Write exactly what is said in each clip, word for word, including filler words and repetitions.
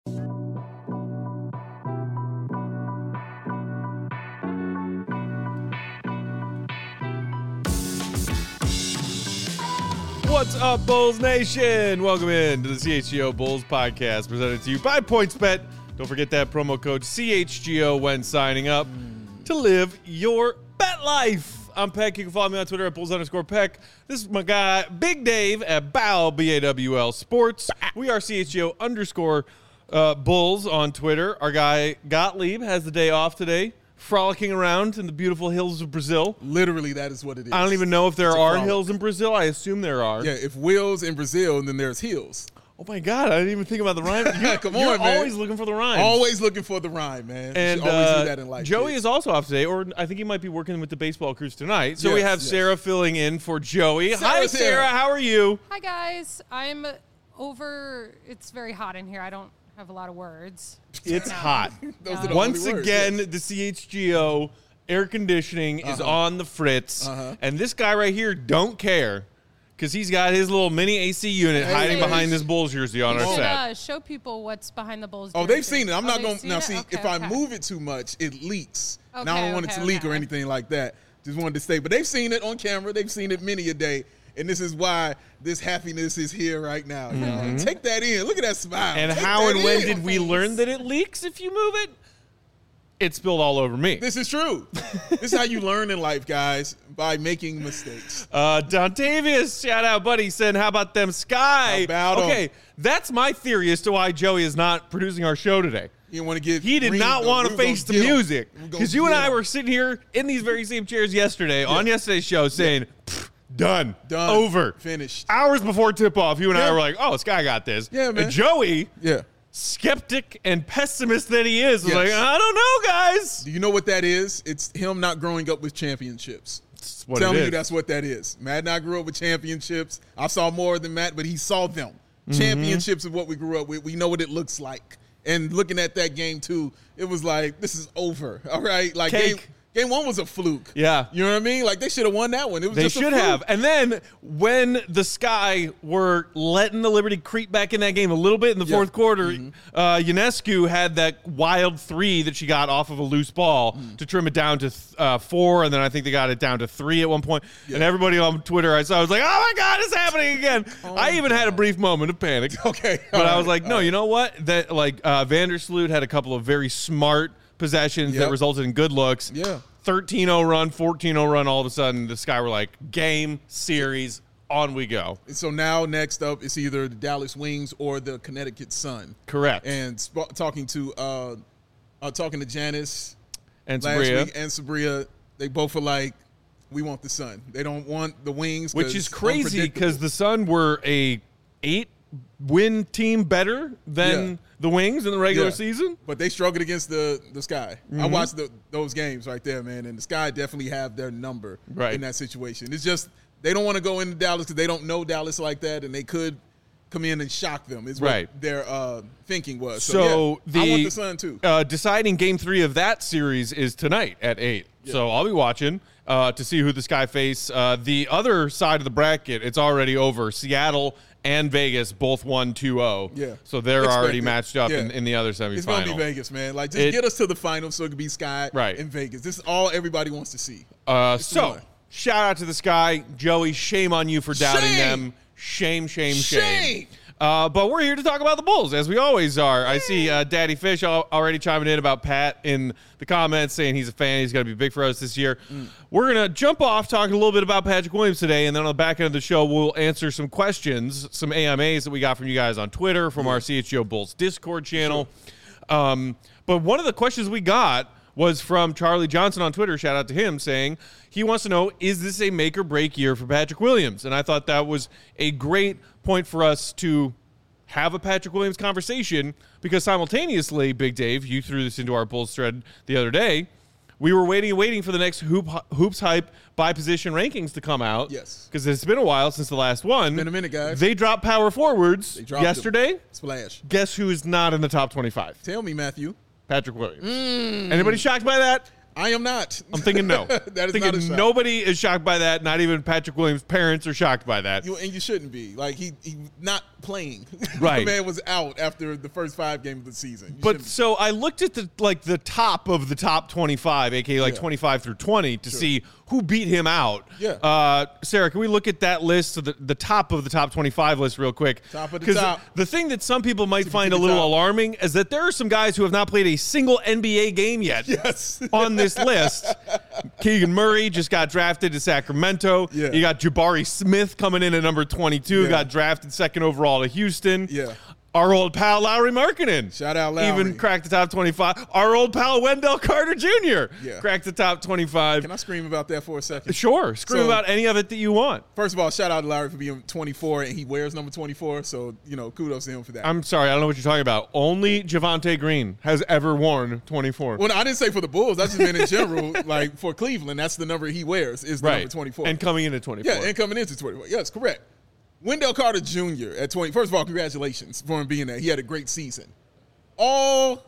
What's up, Bulls Nation? Welcome in to the C H G O Bulls podcast presented to you by PointsBet. Don't forget that promo code C H G O when signing up to live your bet life. I'm Peck. You can follow me on Twitter at Bulls underscore Peck. This is my guy, Big Dave at Bow, B A W L Sports. We are C H G O underscore uh, Bulls on Twitter. Our guy, Gottlieb, has the day off today, frolicking around in the beautiful hills of Brazil. Literally, that is what it is. I don't even know if there It's a are frolic. hills in Brazil. I assume there are. Yeah, if wheels in Brazil, then there's hills. Oh, my God. I didn't even think about the rhyme. You're, Come you're on, man. always looking for the rhyme. Always looking for the rhyme, man. And you should always uh, do that in life. Joey kids. is also off today, or I think he might be working with the baseball crews tonight. So we Yes, have yes. Sarah filling in for Joey. Hi, Sarah's here. Sarah. How are you? Hi, guys. I'm over. It's very hot in here. I don't have a lot of words. It's No. hot. Those are the Once only words, again, yes. the C H G O air conditioning is Uh-huh. on the fritz. Uh-huh. And this guy right here don't care because he's got his little mini A C unit Hey, hiding hey. behind this Bulls jersey on You our should set. uh, show people what's behind the Bulls. Oh, they've jersey. seen it. I'm Oh, not they've going to. seen Now, it? see, Okay, if I okay. move it too much, it leaks. Okay, now, I don't want it okay, to leak okay. or anything like that. Just wanted to stay. But they've seen it on camera. They've seen it many a day. And this is why this happiness is here right now. You know? Take that in. Look at that smile. And Take how that and when in. did we learn that it leaks if you move it? It spilled all over me. This is true. This is how you learn in life, guys, by making mistakes. Uh, Dontavius, shout out, buddy, said, how about them Sky? How about 'em? Okay, that's my theory as to why Joey is not producing our show today. You didn't want to get. He did green, not though. want We to were face the gonna get 'em. music. We were gonna Because you and get I 'em. were sitting here in these very same chairs yesterday on yesterday's show saying, "Pfft, done, Done. over, Finished. Hours before tip-off, you and I Yeah. were like, oh, Sky got this. Yeah, man. And Joey, Yeah. skeptic and pessimist that he is, was Yes. like, I don't know, guys. Do you know what that is? It's him not growing up with championships. That's what Telling it you is. that's what that is. Matt and I grew up with championships. I saw more than Matt, but he saw them. Championships of what we grew up with. We know what it looks like. And looking at that game too, it was like, this is over. All right. Like Cake. game, game one was a fluke. Yeah. You know what I mean? Like they should have won that one. It was They just a should fluke. have. And then when the Sky were letting the Liberty creep back in that game a little bit in the Yeah. fourth quarter, Mm-hmm. uh, Ionescu had that wild three that she got off of a loose ball Mm. to trim it down to th- uh, four, and then I think they got it down to three at one point. Yeah. And everybody on Twitter I saw was like, oh, my God, it's happening again. I even had a brief moment of panic. Okay. But All I was right. like, no, All right. you know what? That like uh, Vandersloot had a couple of very smart possessions that Yep. resulted in good looks. Yeah. thirteen oh run, fourteen oh run, all of a sudden the Sky were like, game, series, on we go. So now next up it's either the Dallas Wings or the Connecticut Sun. Correct. And sp- talking to uh, uh talking to Janice And last Sabria, week and Sabria, they both are like, we want the Sun. They don't want the Wings, which 'cause is crazy unpredictable. because the Sun were a eight win team better than Yeah. the Wings in the regular Yeah. season. But they struggled against the the Sky. I Mm-hmm. watched the, those games right there, man, and the Sky definitely have their number Right. in that situation. It's just they don't want to go into Dallas because they don't know Dallas like that, and they could come in and shock them. Is what Right. their uh, thinking was. So, So yeah, the I want the Sun too. Uh, deciding game three of that series is tonight at eight. So I'll be watching uh, to see who the Sky face. Uh, the other side of the bracket, it's already over. Seattle and Vegas both won two oh. Yeah. So they're Expected. already matched up Yeah. in, in the other semifinal. It's gonna be Vegas, man. Like just It- get us to the finals so it could be Sky Right. and Vegas. This is all everybody wants to see. Uh, It's so, fun. shout out to the Sky. Joey, shame on you for doubting Shame. them. Shame, shame, shame. Shame. Uh, but we're here to talk about the Bulls, as we always are. I see uh, Daddy Fish al- already chiming in about Pat in the comments, saying he's a fan. He's going to be big for us this year. Mm. We're going to jump off talking a little bit about Patrick Williams today, and then on the back end of the show, we'll answer some questions, some A M As that we got from you guys on Twitter, from our C H G O Bulls Discord channel. Um, but one of the questions we got was from Charlie Johnson on Twitter. Shout out to him, saying he wants to know, is this a make or break year for Patrick Williams? And I thought that was a great point for us to have a Patrick Williams conversation, because simultaneously, Big Dave, you threw this into our Bulls thread the other day, we were waiting and waiting for the next hoop, Hoops Hype by position rankings to come out. Yes. Because it's been a while since the last one. Been a minute, guys. They dropped power forwards They dropped yesterday. them. Splash. Guess who is not in the top twenty-five? Tell me, Matthew. Patrick Williams. Mm. Anybody shocked by that? I am not. I'm thinking no. That is thinking not a shock. Nobody is shocked by that. Not even Patrick Williams' parents are shocked by that. You, and you shouldn't be. Like, he he not playing. Right. The man was out after the first five games of the season. You But shouldn't- so I looked at the like the top of the top twenty-five, aka like Yeah. twenty-five through twenty, to see who beat him out. Yeah. Uh, Sarah, can we look at that list, of the, the top of the top twenty-five list, real quick? Top of the 'Cause top. The thing that some people might Tippy, find a tippy little top. alarming is that there are some guys who have not played a single N B A game yet. Yes. On this list. Keegan Murray just got drafted to Sacramento. Yeah. You got Jabari Smith coming in at number twenty-two, Yeah. got drafted second overall to Houston. Yeah. Our old pal Lowry Markkinen. Shout out Lowry. Even cracked the top twenty-five. Our old pal Wendell Carter Junior Yeah. cracked the top twenty-five. Can I scream about that for a second? Sure. Scream So- about any of it that you want. First of all, shout out to Larry for being twenty-four, and he wears number twenty-four. So, you know, kudos to him for that. I'm sorry. I don't know what you're talking about. Only Javonte Green has ever worn twenty-four. well, no, I didn't say for the Bulls. I just meant in general, like for Cleveland, that's the number he wears is the right. number twenty-four. And coming in at twenty-four. yeah, and coming into twenty-four. Yes, correct. Wendell Carter Junior at twenty. First of all, congratulations for him being there. He had a great season. All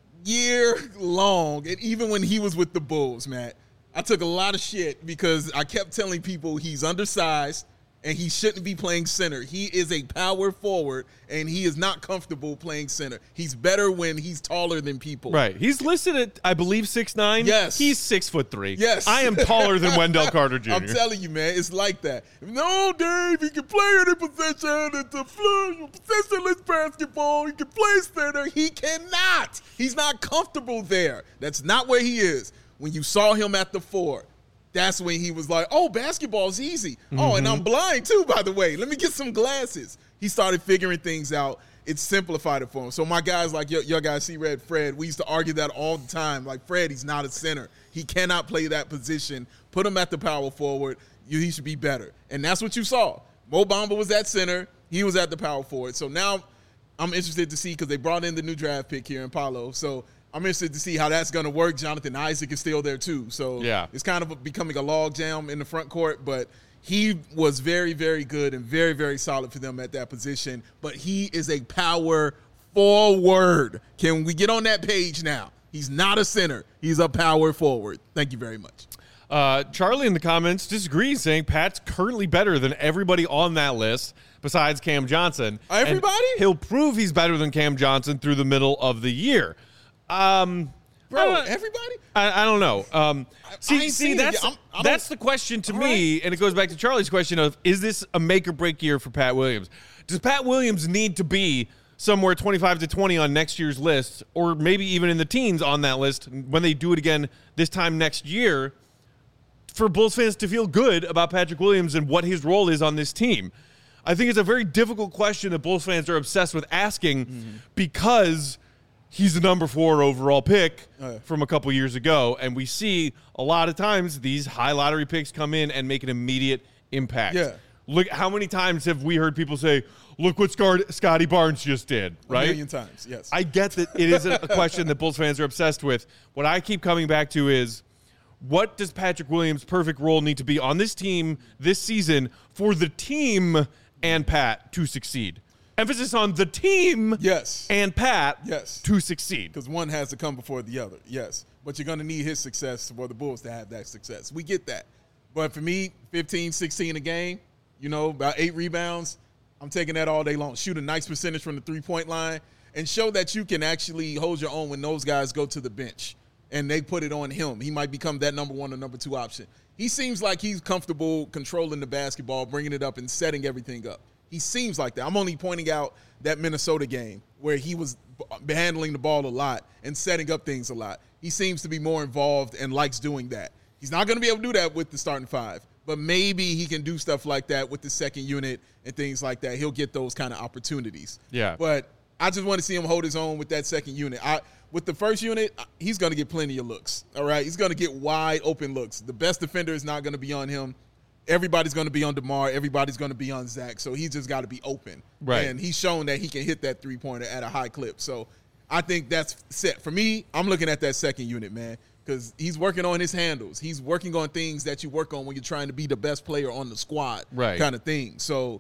year long, and even when he was with the Bulls, Matt, I took a lot of shit because I kept telling people he's undersized and he shouldn't be playing center. He is a power forward, and he is not comfortable playing center. He's better when he's taller than people. Right. He's listed at, I believe, six nine. Yes. He's six foot three. Yes. I am taller than Wendell Carter Junior I'm telling you, man, it's like that. No, Dave, he can play any position. It's a flu- positionless basketball. He can play center. He cannot. He's not comfortable there. That's not where he is. When you saw him at the four, that's when he was like, oh, basketball's easy. Mm-hmm. Oh, and I'm blind too, by the way. Let me get some glasses. He started figuring things out. It simplified it for him. So my guys like your, your guys, C-Red, Fred, we used to argue that all the time. Like, Fred, he's not a center. He cannot play that position. Put him at the power forward. You, he should be better. And that's what you saw. Mo Bamba was at center. He was at the power forward. So now I'm interested to see because they brought in the new draft pick here in Paolo. So I'm interested to see how that's going to work. Jonathan Isaac is still there too. So yeah. It's kind of becoming a log jam in the front court, but he was very, very good and very, very solid for them at that position. But he is a power forward. Can we get on that page now? He's not a center. He's a power forward. Thank you very much. Uh, Charlie in the comments disagrees, saying Pat's currently better than everybody on that list besides Cam Johnson. Everybody? And he'll prove he's better than Cam Johnson through the middle of the year. Um, Bro, I everybody? I, I don't know. Um, see, I ain't see, seen it that's yet. I'm- I don't- that's the question to All me, right. and it goes back to Charlie's question of: is this a make or break year for Pat Williams? Does Pat Williams need to be somewhere twenty-five to twenty on next year's list, or maybe even in the teens on that list when they do it again this time next year, for Bulls fans to feel good about Patrick Williams and what his role is on this team? I think it's a very difficult question that Bulls fans are obsessed with asking Mm-hmm. because he's the number four overall pick Oh, yeah. from a couple years ago, and we see a lot of times these high lottery picks come in and make an immediate impact. Yeah. Look, how many times have we heard people say, look what Scar- Scotty Barnes just did, A right? million times, yes. I get that it is a question that Bulls fans are obsessed with. What I keep coming back to is, what does Patrick Williams' perfect role need to be on this team this season for the team and Pat to succeed? Emphasis on the team Yes. and Pat Yes. to succeed. Because one has to come before the other, yes. But you're going to need his success for the Bulls to have that success. We get that. But for me, fifteen, sixteen a game, you know, about eight rebounds, I'm taking that all day long. Shoot a nice percentage from the three-point line and show that you can actually hold your own when those guys go to the bench and they put it on him. He might become that number one or number two option. He seems like he's comfortable controlling the basketball, bringing it up, and setting everything up. He seems like that. I'm only pointing out that Minnesota game where he was b- handling the ball a lot and setting up things a lot. He seems to be more involved and likes doing that. He's not going to be able to do that with the starting five, but maybe he can do stuff like that with the second unit and things like that. He'll get those kind of opportunities. Yeah. But I just want to see him hold his own with that second unit. I, with the first unit, he's going to get plenty of looks, all right? He's going to get wide open looks. The best defender is not going to be on him. Everybody's going to be on DeMar. Everybody's going to be on Zach. So he's just got to be open. Right. And he's shown that he can hit that three-pointer at a high clip. So I think that's set. For me, I'm looking at that second unit, man, because he's working on his handles. He's working on things that you work on when you're trying to be the best player on the squad Right. kind of thing. So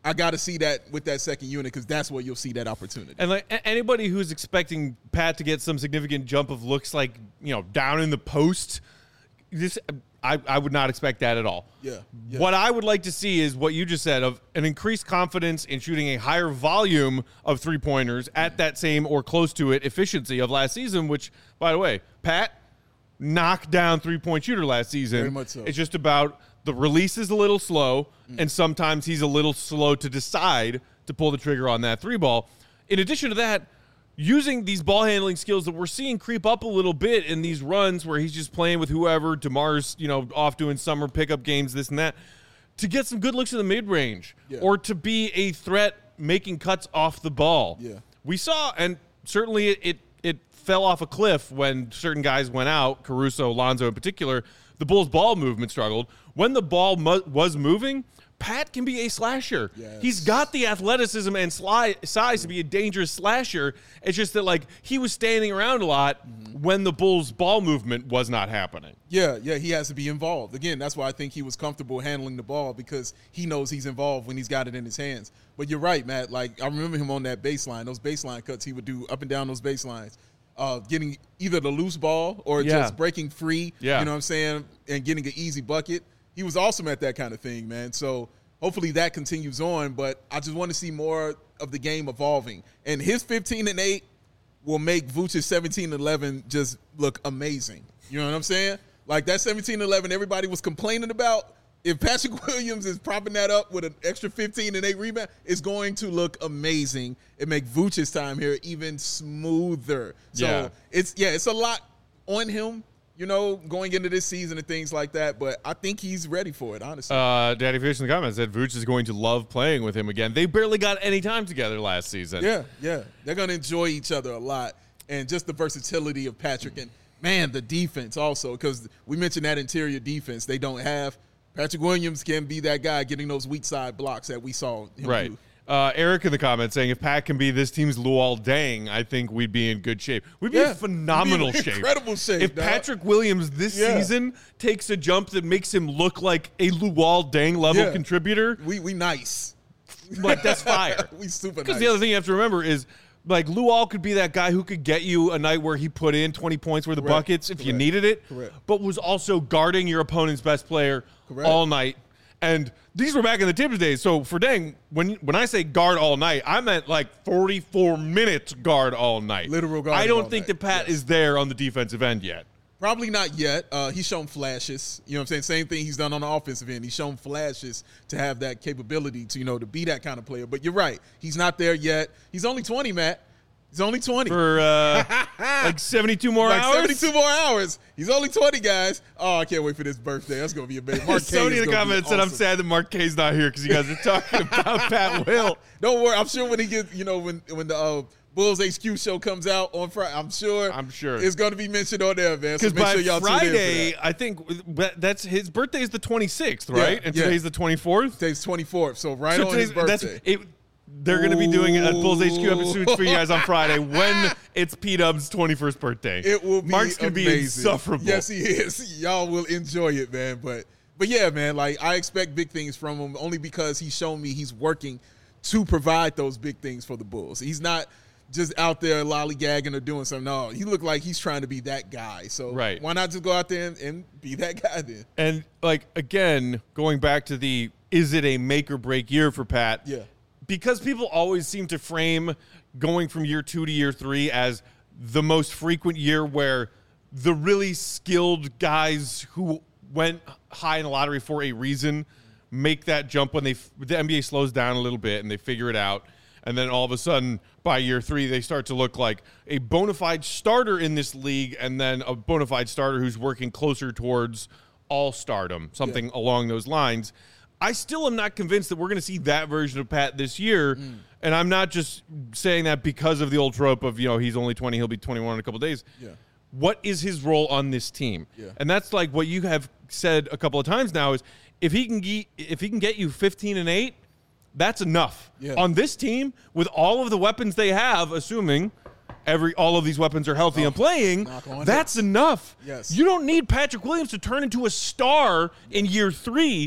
I got to see that with that second unit because that's where you'll see that opportunity. And like a- anybody who's expecting Pat to get some significant jump of looks like, you know, down in the post, this I, I would not expect that at all. Yeah, yeah. What I would like to see is what you just said of an increased confidence in shooting a higher volume of three-pointers at that same or close to it efficiency of last season, which, by the way, Pat knocked down three-point shooter last season. Very much so. It's just about the release is a little slow, mm. and sometimes he's a little slow to decide to pull the trigger on that three ball. In addition to that, using these ball handling skills that we're seeing creep up a little bit in these runs where he's just playing with whoever, DeMar's, you know, off doing summer pickup games, this and that, to get some good looks in the mid-range yeah. or to be a threat making cuts off the ball. Yeah. We saw, and certainly it, it, it fell off a cliff when certain guys went out, Caruso, Lonzo in particular, the Bulls' ball movement struggled. When the ball mu- was moving, Pat can be a slasher. Yes. He's got the athleticism and sli- size to be a dangerous slasher. It's just that, like, he was standing around a lot mm-hmm. when the Bulls' ball movement was not happening. Yeah, yeah, he has to be involved. Again, that's why I think he was comfortable handling the ball because he knows he's involved when he's got it in his hands. But you're right, Matt. Like, I remember him on that baseline, those baseline cuts he would do up and down those baselines. Uh, getting either the loose ball or yeah. just breaking free, yeah. you know what I'm saying, and getting an easy bucket. He was awesome at that kind of thing, man. So hopefully that continues on, but I just want to see more of the game evolving. And his fifteen and eight will make Vooch's seventeen and eleven just look amazing. You know what I'm saying? Like that seventeen and eleven everybody was complaining about. If Patrick Williams is propping that up with an extra fifteen and eight rebound, it's going to look amazing. It make Vooch's time here even smoother. So yeah. it's yeah, it's a lot on him, you know, going into this season and things like that. But I think he's ready for it, honestly. Uh, Daddy Fish in the comments said Vooch is going to love playing with him again. They barely got any time together last season. Yeah, yeah. They're going to enjoy each other a lot. And just the versatility of Patrick. And, man, the defense also, because we mentioned that interior defense they don't have. Patrick Williams can be that guy getting those weak side blocks that we saw him right. do. Uh, Eric in the comments saying, if Pat can be this team's Luol Deng, I think we'd be in good shape. We'd be Yeah, in phenomenal we'd be in shape. incredible shape, If dog. Patrick Williams this Yeah. season takes a jump that makes him look like a Luol Deng level Yeah. contributor, We we nice. like that's fire. we super Because nice. the other thing you have to remember is, like, Luol could be that guy who could get you a night where he put in twenty points worth of Correct. buckets if you Correct. needed it, Correct. but was also guarding your opponent's best player Correct. all night. And these were back in the Tibbs days. So for Deng, when when I say guard all night, I meant like forty-four minutes guard all night. Literal guard I don't all think night. that Pat Yes. is there on the defensive end yet. Probably not yet. Uh, he's shown flashes. You know what I'm saying? Same thing he's done on the offensive end. He's shown flashes to have that capability to, you know, to be that kind of player. But you're right. He's not there yet. He's only twenty, Matt. He's only twenty. For uh, like seventy-two more like hours? seventy-two more hours. He's only twenty, guys. Oh, I can't wait for this birthday. That's going to be amazing. Mark K Somebody is in the gonna be comments said, I'm awesome. sad that Mark K's not here because you guys are talking about Pat Will. Don't worry. I'm sure when he gets, you know, when when the uh, Bulls H Q show comes out on Friday, I'm sure I'm sure. it's going to be mentioned on there, man. So Because make by sure y'all tune in for Friday, that. I think that- that's his birthday is the twenty-sixth, right? Yeah, and yeah. today's the twenty-fourth. Today's twenty-fourth, so right So on his today's- that's birthday. it. They're going to be doing a Bulls H Q episode for you guys on Friday when it's P-Dub's twenty-first birthday. It will be Mark's going to be amazing. insufferable. Yes, he is. Y'all will enjoy it, man. But but yeah, man, like I expect big things from him only because he's shown me he's working to provide those big things for the Bulls. He's not just out there lollygagging or doing something. No, he looked like he's trying to be that guy. So Right. why not just go out there and, and be that guy then? And, like, again, going back to the is it a make or break year for Pat? Yeah. Because people always seem to frame going from year two to year three as the most frequent year where the really skilled guys who went high in the lottery for a reason make that jump when they the N B A slows down a little bit and they figure it out. And then all of a sudden, by year three, they start to look like a bona fide starter in this league and then a bona fide starter who's working closer towards all-stardom, something Yeah. along those lines. I still am not convinced that we're going to see that version of Pat this year. Mm. And I'm not just saying that because of the old trope of, you know, he's only twenty, he'll be twenty-one in a couple days. Yeah. What is his role on this team? Yeah. And that's like what you have said a couple of times now is if he can ge- if he can get you fifteen and eight, that's enough. Yeah. On this team, with all of the weapons they have, assuming every all of these weapons are healthy Oh, and playing, knock on that's it. enough. Yes. You don't need Patrick Williams to turn into a star in year three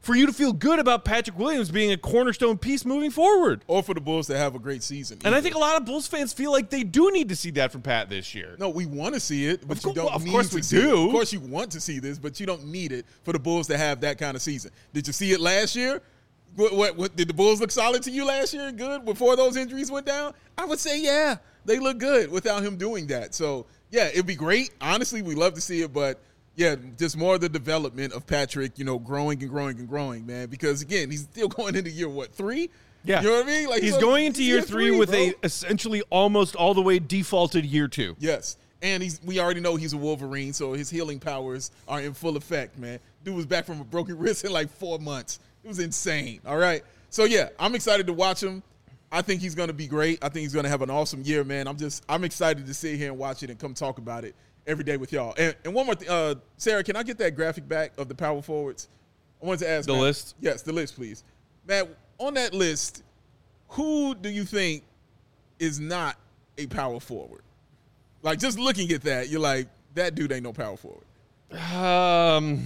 for you to feel good about Patrick Williams being a cornerstone piece moving forward. Or for the Bulls to have a great season. And either. I think a lot of Bulls fans feel like they do need to see that from Pat this year. No, we want to see it, but Of you course- don't well, of need course to we see do. it. Of course you want to see this, but you don't need it for the Bulls to have that kind of season. Did you see it last year? What, what, what did the Bulls look solid to you last year? Good before those injuries went down? I would say, yeah, they look good without him doing that. So, yeah, it'd be great. Honestly, we love to see it, but yeah, just more of the development of Patrick, you know, growing and growing and growing, man. Because again, he's still going into year what three? Yeah, you know what I mean. Like he's so- going into year, year three, three, with bro. a essentially almost all the way defaulted year two. Yes. And he's we already know he's a Wolverine, so his healing powers are in full effect, man. Dude was back from a broken wrist in like four months. It was insane. All right. So yeah, I'm excited to watch him. I think he's gonna be great. I think he's gonna have an awesome year, man. I'm just I'm excited to sit here and watch it and come talk about it every day with y'all. And, and one more thing, uh, Sarah, can I get that graphic back of the power forwards? I wanted to ask The Matt- list? Yes, the list, please. Matt, on that list, who do you think is not a power forward? Like, just looking at that, you're like, that dude ain't no power forward. Um.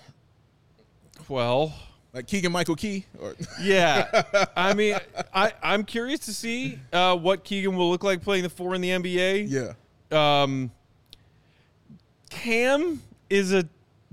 Well, Like Keegan Michael Key? Or yeah. I mean, I I'm curious to see uh, what Keegan will look like playing the four in the N B A. yeah. Um. Cam is a,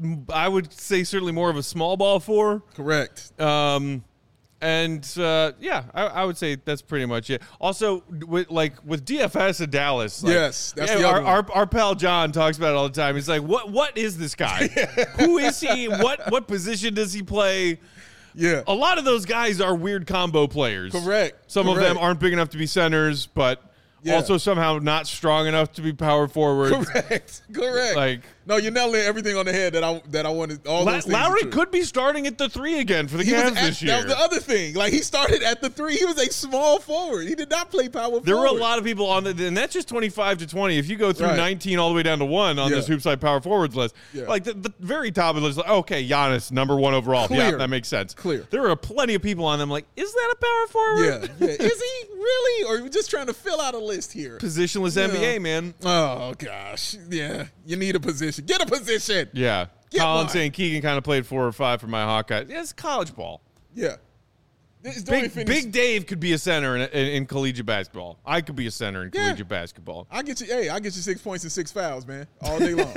I would say certainly more of a small ball four. Correct. Um, and uh, yeah, I, I would say that's pretty much it. Also, with like with D F S in Dallas, like, Yes, that's yeah, the our, other one. our our pal John talks about it all the time. He's like, what what is this guy? Who is he? What what position does he play? Yeah. A lot of those guys are weird combo players. Correct. Some of them Correct. aren't big enough to be centers, but Yeah. also somehow not strong enough to be power forwards. Correct. Correct. Like- no, you're nailing everything on the head that I that I wanted. All La- those things are Lowry true. could be starting at the three again for the He was Cavs at- this year. That was the other thing. Like, he started at the three. He was a small forward. He did not play power There forward. were a lot of people on the, and that's just twenty-five to twenty. If you go through Right. nineteen all the way down to one on Yeah. this Hoopside Power Forwards list, Yeah. like the, the very top of the list, like, okay, Giannis, number one overall. Yeah, Clear. that makes sense. Clear. There were plenty of people on them like, is that a power forward? Yeah. Yeah. Is he really? Or are we just trying to fill out a list here? Positionless N B A, Yeah. man. Oh, gosh. Yeah. You need a position. Get a position. Yeah. Get Colin one. saying Keegan kind of played four or five for my Hawkeyes. Yeah, it's college ball. Yeah. This- Dorian Big, Finney- Big Dave could be a center in, in, in collegiate basketball. I could be a center in Yeah. collegiate basketball. I get you. Hey, I get you six points and six fouls, man, all day long,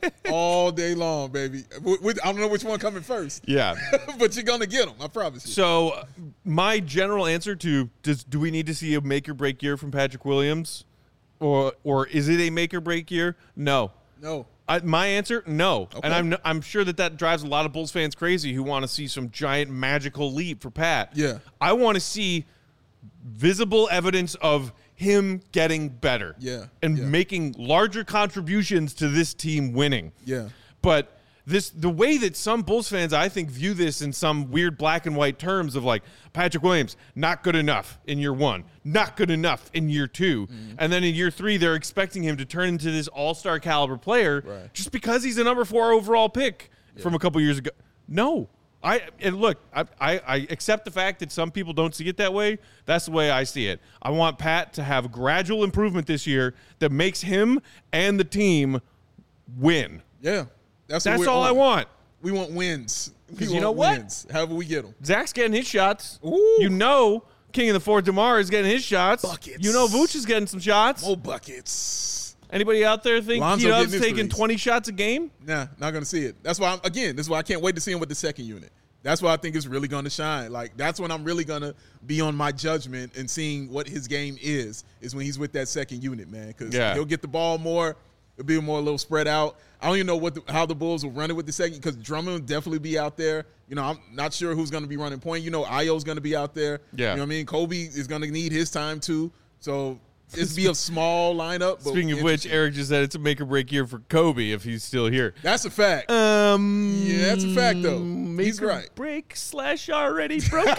all day long, baby. With- with- I don't know which one coming first, Yeah. but you're gonna get them. I promise you. So, uh, my general answer to does do we need to see a make or break year from Patrick Williams, or or is it a make or break year? No. no, I, my answer, no. Okay. And I'm I'm sure that that drives a lot of Bulls fans crazy who want to see some giant magical leap for Pat. Yeah. I want to see visible evidence of him getting better. Yeah, And yeah. making larger contributions to this team winning. Yeah. But this the way that some Bulls fans, I think, view this in some weird black and white terms of like Patrick Williams, not good enough in year one, not good enough in year two. Mm-hmm. And then in year three, they're expecting him to turn into this all-star caliber player Right. just because he's a number four overall pick from a couple years ago. No. I and look, I, I, I accept the fact that some people don't see it that way. That's the way I see it. I want Pat to have gradual improvement this year that makes him and the team win. yeah. That's what That's we're all I on. want. We want wins. We 'Cause you want know what? wins. However we get them. Zach's getting his shots. Ooh. You know, King of the Fourth DeMar is getting his shots. Buckets. You know, Vooch is getting some shots. More buckets. Anybody out there think Lonzo T-Dub's getting his taking threes. twenty shots a game? Nah, not gonna see it. That's why I'm, again, this is why I can't wait to see him with the second unit. That's why I think it's really gonna shine. Like, that's when I'm really gonna be on my judgment and seeing what his game is, is when he's with that second unit, man. Because Yeah. he'll get the ball more. It'll be more a little spread out. I don't even know what the, how the Bulls will run it with the second, because Drummond will definitely be out there. You know, I'm not sure who's gonna be running point. You know, Io's gonna be out there. Yeah. You know what I mean? Kobe is gonna need his time too. So it's be a small lineup. But Speaking of which, interesting. Eric just said it's a make or break year for Kobe if he's still here. That's a fact. Um, Yeah, that's a fact, though. Make He's or right. break slash already broken.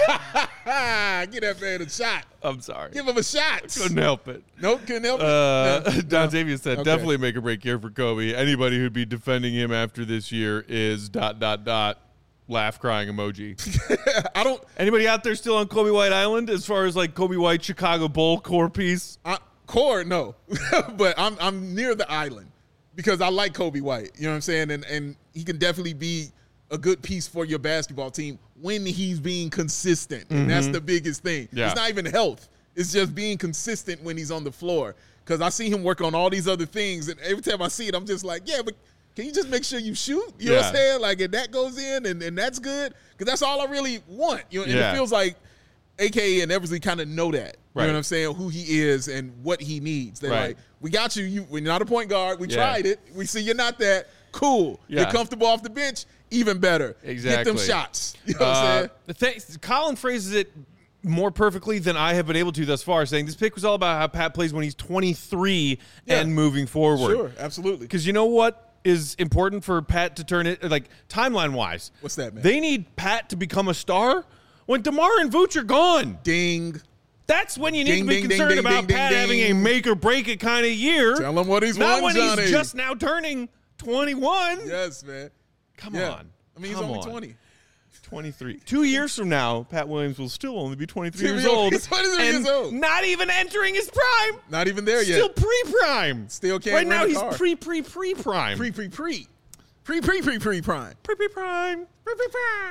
Get that man a shot. I'm sorry. Give him a shot. Couldn't help it. Nope, couldn't help Uh, it. No. Don Xavier said, Okay. definitely make or break year for Kobe. Anybody who'd be defending him after this year is dot, dot, dot, laugh crying emoji. I don't. Anybody out there still on Kobe White Island as far as like Kobe White Chicago Bull core piece? I, core, no, but I'm I'm near the island because I like Kobe White. You know what I'm saying? And and he can definitely be a good piece for your basketball team when he's being consistent. And mm-hmm. that's the biggest thing. Yeah. It's not even health. It's just being consistent when he's on the floor. Because I see him work on all these other things. And every time I see it, I'm just like, yeah, but can you just make sure you shoot? You know yeah. what I'm saying? Like, if that goes in and, and that's good. Because that's all I really want. You know, and yeah. it feels like A K A and Eversley kind of know that. You right. know what I'm saying? Who he is and what he needs. They're right. like, we got you. You when you're not a point guard. We yeah. tried it. We see you're not that. Cool. Yeah. You're comfortable off the bench. Even better. Exactly. Get them shots. You know what uh, I'm saying? The thing, Colin phrases it more perfectly than I have been able to thus far, saying this pick was all about how Pat plays when he's twenty-three yeah. and moving forward. Sure, absolutely. Because you know what is important for Pat to turn it, like timeline-wise? What's that, man? They need Pat to become a star when DeMar and Vooch are gone. Ding. That's when you need ding, to be ding, concerned ding, about ding, Pat ding, having ding. a make-or-break-it kind of year. Tell him what he's Not won, when Johnny. he's just now turning twenty-one. Yes, man. Come yeah. on. I mean, he's Come only on. twenty. twenty-three. Two years from now, Pat Williams will still only be twenty-three He'll years be old. only twenty-three and years old. Not even entering his prime. Not even there Still yet. pre-prime. Still can't Right rent now, a he's car. pre, pre, pre-prime. Pre, pre, pre. Pre, pre, pre, pre, prime. Pre, pre, prime. Pre, pre,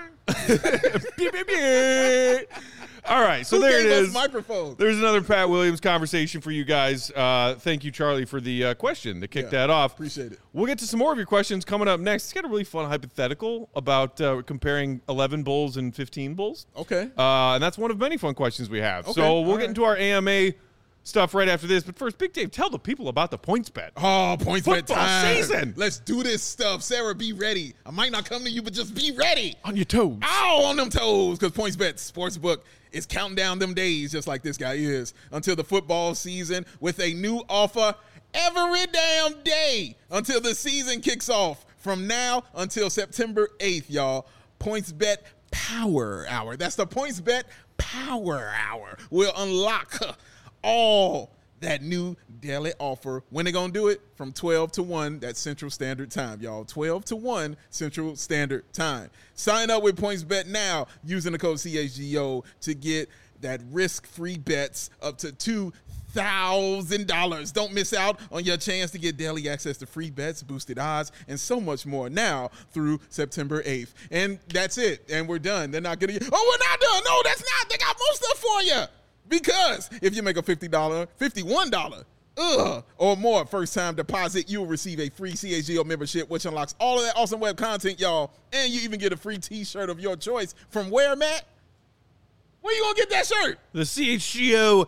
prime. Beep, beep, beep. All right, so Who there it gave us is. microphones? There's another Pat Williams conversation for you guys. Uh, thank you, Charlie, for the uh, question to kick Yeah, that off. appreciate it. We'll get to some more of your questions coming up next. It's got a really fun hypothetical about uh, comparing eleven Bulls and fifteen Bulls. Okay. Uh, and that's one of many fun questions we have. Okay, so we'll all get right. into our A M A stuff right after this. But first, Big Dave, tell the people about the points bet. Oh, points bet Football time. season. Let's do this stuff. Sarah, be ready. I might not come to you, but just be ready. On your toes. Ow, on them toes, because PointsBet Sportsbook is counting down them days, just like this guy is, until the football season with a new offer every damn day until the season kicks off. From now until September eighth, y'all. PointsBet Power Hour. That's the PointsBet Power Hour. We'll unlock uh, all that new daily offer. When they gonna do it? From twelve to one, that's Central Standard Time, y'all. twelve to one Central Standard Time. Sign up with PointsBet now using the code C H G O to get that risk-free bets up to two thousand dollars. Don't miss out on your chance to get daily access to free bets, boosted odds, and so much more now through September eighth. And that's it. And we're done. They're not gonna get, oh, we're not done. No, that's not. They got more stuff for you. Because if you make a fifty dollars, fifty-one dollars, ugh, or more first-time deposit, you will receive a free C H G O membership, which unlocks all of that awesome web content, y'all. And you even get a free T-shirt of your choice. From where, Matt? Where you gonna get that shirt? The C H G O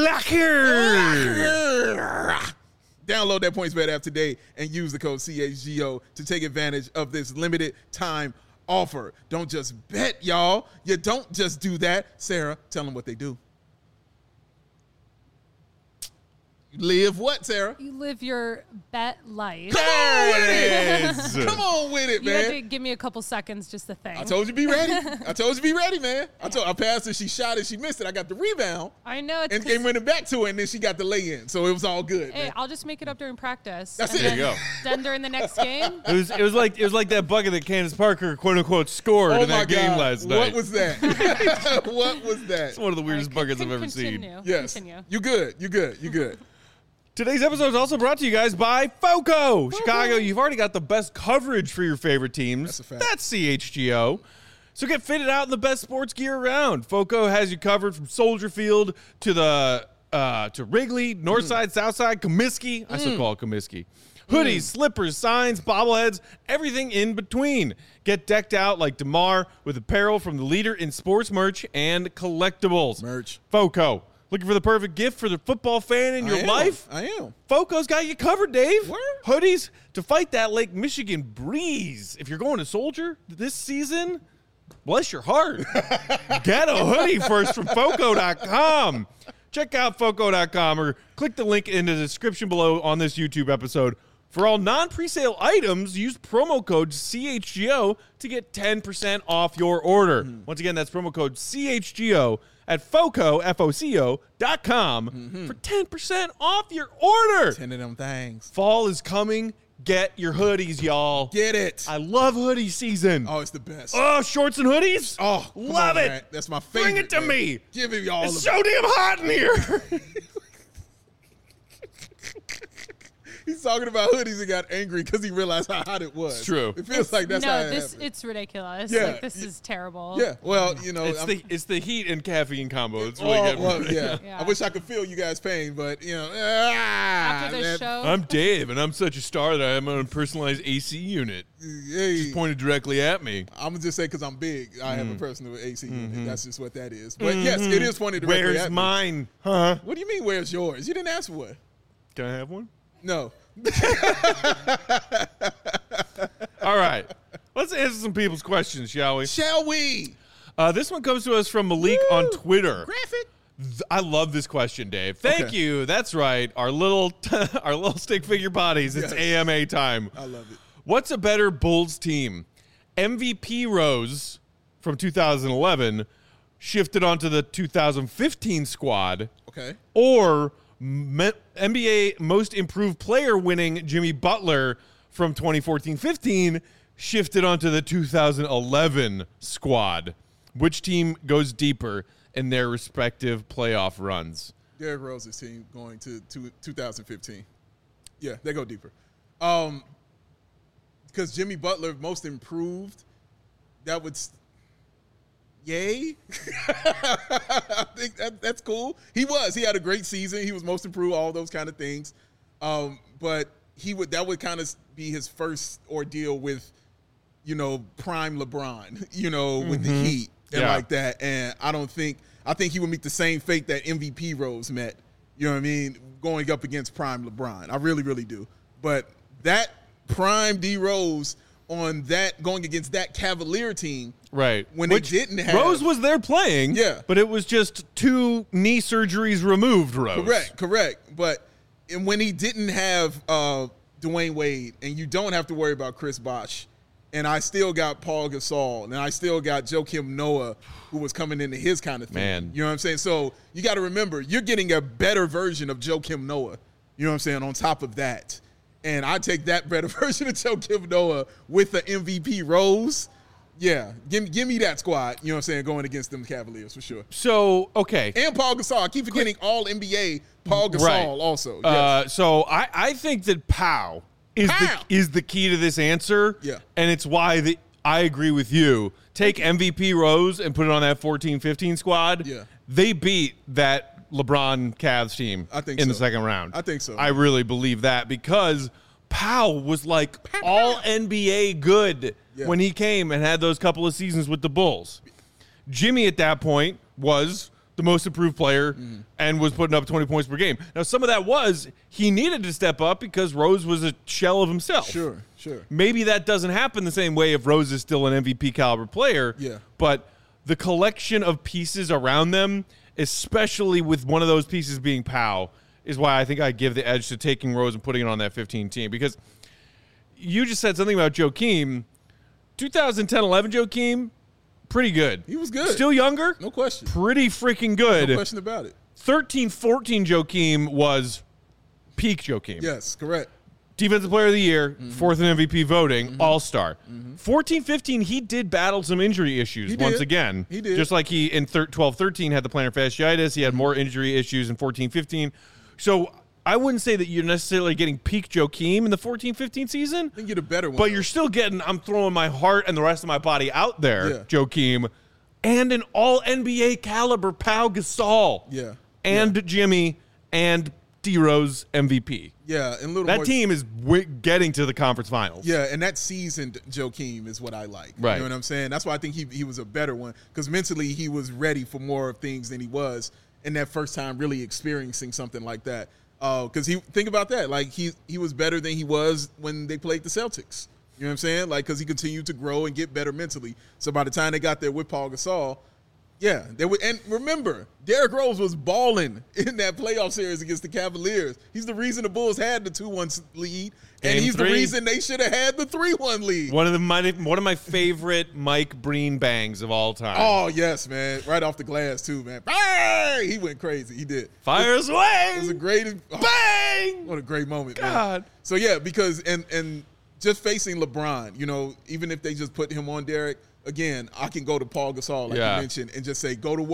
Locker. Download that PointsBet app today and use the code C H G O to take advantage of this limited time offer. Don't just bet, y'all. You don't just do that. Sarah, tell them what they do. You live what, Sarah? You live your bet life. Come on with There it it. is. Come on with it, You had to man. give me a couple seconds just to think. I told you be ready. I told you be ready, man. I told I passed her. She shot it. She missed it. I got the rebound I know. It's and 'cause- came running back to it, and then she got the lay in. So it was all good. Hey, man. I'll just make it up during practice. That's and it. There you then- go. Then during the next game, It was it was like it was like that bucket that Candace Parker quote unquote scored Oh in my that game God. last night. What was that? What was that? It's one of the weirdest All right, buckets con- I've ever continue. seen. Yes. Continue. You good. You good. You good. Today's episode is also brought to you guys by FOCO. Chicago, you've already got the best coverage for your favorite teams. That's a fact. That's C H G O. So get fitted out in the best sports gear around. FOCO has you covered from Soldier Field to the uh, to Wrigley, North Side, South Side, Comiskey. I still call it Comiskey. Hoodies, slippers, signs, bobbleheads, everything in between. Get decked out like DeMar with apparel from the leader in sports merch and collectibles. Merch. FOCO. Looking for the perfect gift for the football fan in I your am. life? I am. FOCO's got you covered, Dave. Word. Hoodies to fight that Lake Michigan breeze. If you're going to Soldier this season, bless your heart. Get a hoodie first from FOCO dot com. Check out FOCO dot com or click the link in the description below on this YouTube episode. For all non-presale items, use promo code C H G O to get ten percent off your order. Mm-hmm. Once again, that's promo code C H G O at FOCO, F O C O dot com Mm-hmm. for ten percent off your order. Ten of them things. Fall is coming. Get your hoodies, y'all. Get it. I love hoodie season. Oh, it's the best. Oh, shorts and hoodies? Oh, come love on, it. man. That's my favorite. Bring it to man. me. Give me all It's of so it. damn hot in here. He's talking about hoodies and got angry because he realized how hot it was. It's true. It feels like that's no, how it this happened. it's ridiculous. Yeah. Like, this is terrible. Yeah, well, you know, It's I'm- the it's the heat and caffeine combo. It's really oh, getting well, me. yeah. Yeah. I wish I could feel you guys' pain, but you know, ah, After this man, show, I'm Dave, and I'm such a star that I'm on a personalized A C unit. hey, Pointed directly at me. I'm gonna just say because I'm big, I Mm. have a personal A C Mm-hmm. unit. That's just what that is. But yes, it is funny directly Where's at me. mine? Huh? What do you mean? Where's yours? You didn't ask for one. Can I have one? No. All right. Let's answer some people's questions, shall we? Shall we? Uh, this one comes to us from Malik Woo! on Twitter. Graphic. Th- I love this question, Dave. Thank Okay. you. That's right. Our little our little stick figure bodies. It's Yes. A M A time. I love it. What's a better Bulls team? M V P Rose from two thousand eleven shifted onto the two thousand fifteen squad, Okay. or me- N B A Most Improved Player winning Jimmy Butler from twenty fourteen fifteen shifted onto the two thousand eleven squad. Which team goes deeper in their respective playoff runs? Derrick Rose's team going to, to two thousand fifteen. Yeah, they go deeper. Um, because Jimmy Butler most improved, that would, s- yay. I think that, that's cool. He was. He had a great season. He was most improved. All those kind of things. Um, but he would. That would kind of be his first ordeal with, you know, prime LeBron. You know, with the Heat and Yeah. like that. And I don't think. I think he would meet the same fate that M V P Rose met. You know what I mean? Going up against prime LeBron. I really, really do. But that prime D Rose on that going against that Cavalier team, Right. when Which they didn't have Rose was there playing. Yeah. But it was just two knee surgeries removed, Rose. correct, correct. But and when he didn't have uh, Dwayne Wade, and you don't have to worry about Chris Bosh, and I still got Paul Gasol, and I still got Joakim Noah, who was coming into his kind of thing. Man. You know what I'm saying? So you got to remember, you're getting a better version of Joakim Noah. You know what I'm saying? On top of that. And I take that better version of Joakim Noah with the M V P Rose. Yeah, give, give me that squad, you know what I'm saying, going against them Cavaliers for sure. So, okay. And Paul Gasol. I keep forgetting all N B A Paul Gasol Right. also. Yes. Uh, so I, I think that Pow is Pow! the is the key to this answer. Yeah. And it's why the I agree with you. Take M V P Rose and put it on that fourteen fifteen squad. Yeah. They beat that LeBron Cavs team I think in the so. second round. I think so. I really believe that because Powell was like all N B A good Yeah. when he came and had those couple of seasons with the Bulls. Jimmy at that point was the most improved player Mm-hmm. and was putting up twenty points per game. Now, some of that was he needed to step up because Rose was a shell of himself. Sure, sure. Maybe that doesn't happen the same way if Rose is still an M V P caliber player. Yeah. But the collection of pieces around them, especially with one of those pieces being Powell, is why I think I give the edge to taking Rose and putting it on that fifteen team. Because you just said something about Joakim. twenty ten eleven Joakim, pretty good. He was good. Still younger? No question. Pretty freaking good. No question about it. thirteen fourteen Joakim was peak Joakim. Yes, correct. Defensive Player of the Year, Mm-hmm. fourth in M V P voting, All-Star. fourteen fifteen, he did battle some injury issues He once did. again. He did. Just like he in twelve thirteen had the plantar fasciitis. He had more injury issues in fourteen fifteen. So I wouldn't say that you're necessarily getting peak Joakim in the fourteen fifteen season, I think you're the better one. but though. you're still getting, I'm throwing my heart and the rest of my body out there, Yeah. Joakim, and an all-N B A caliber Pau Gasol. Yeah. And Jimmy and D-Rose M V P. Yeah, and a little That more, team is w- getting to the conference finals. Yeah, and that seasoned Joakim is what I like. Right. You know what I'm saying? That's why I think he he was a better one because mentally he was ready for more things than he was in that first time really experiencing something like that. Because he think about that, like he he was better than he was when they played the Celtics. You know what I'm saying? Like because he continued to grow and get better mentally. So by the time they got there with Paul Gasol, yeah, they were. And remember, Derrick Rose was balling in that playoff series against the Cavaliers. He's the reason the Bulls had the two one lead, and Game he's three. the reason they should have had the three one lead. One of the my, one of my favorite Mike Breen bangs of all time. Oh yes, man! Right off the glass too, man. Bang! He went crazy. He did. Fires away. It was a great oh, bang. What a great moment, man. God. So yeah, because and and just facing LeBron, you know, even if they just put him on Derrick, again, I can go to Paul Gasol, like Yeah. you mentioned, and just say, go to work.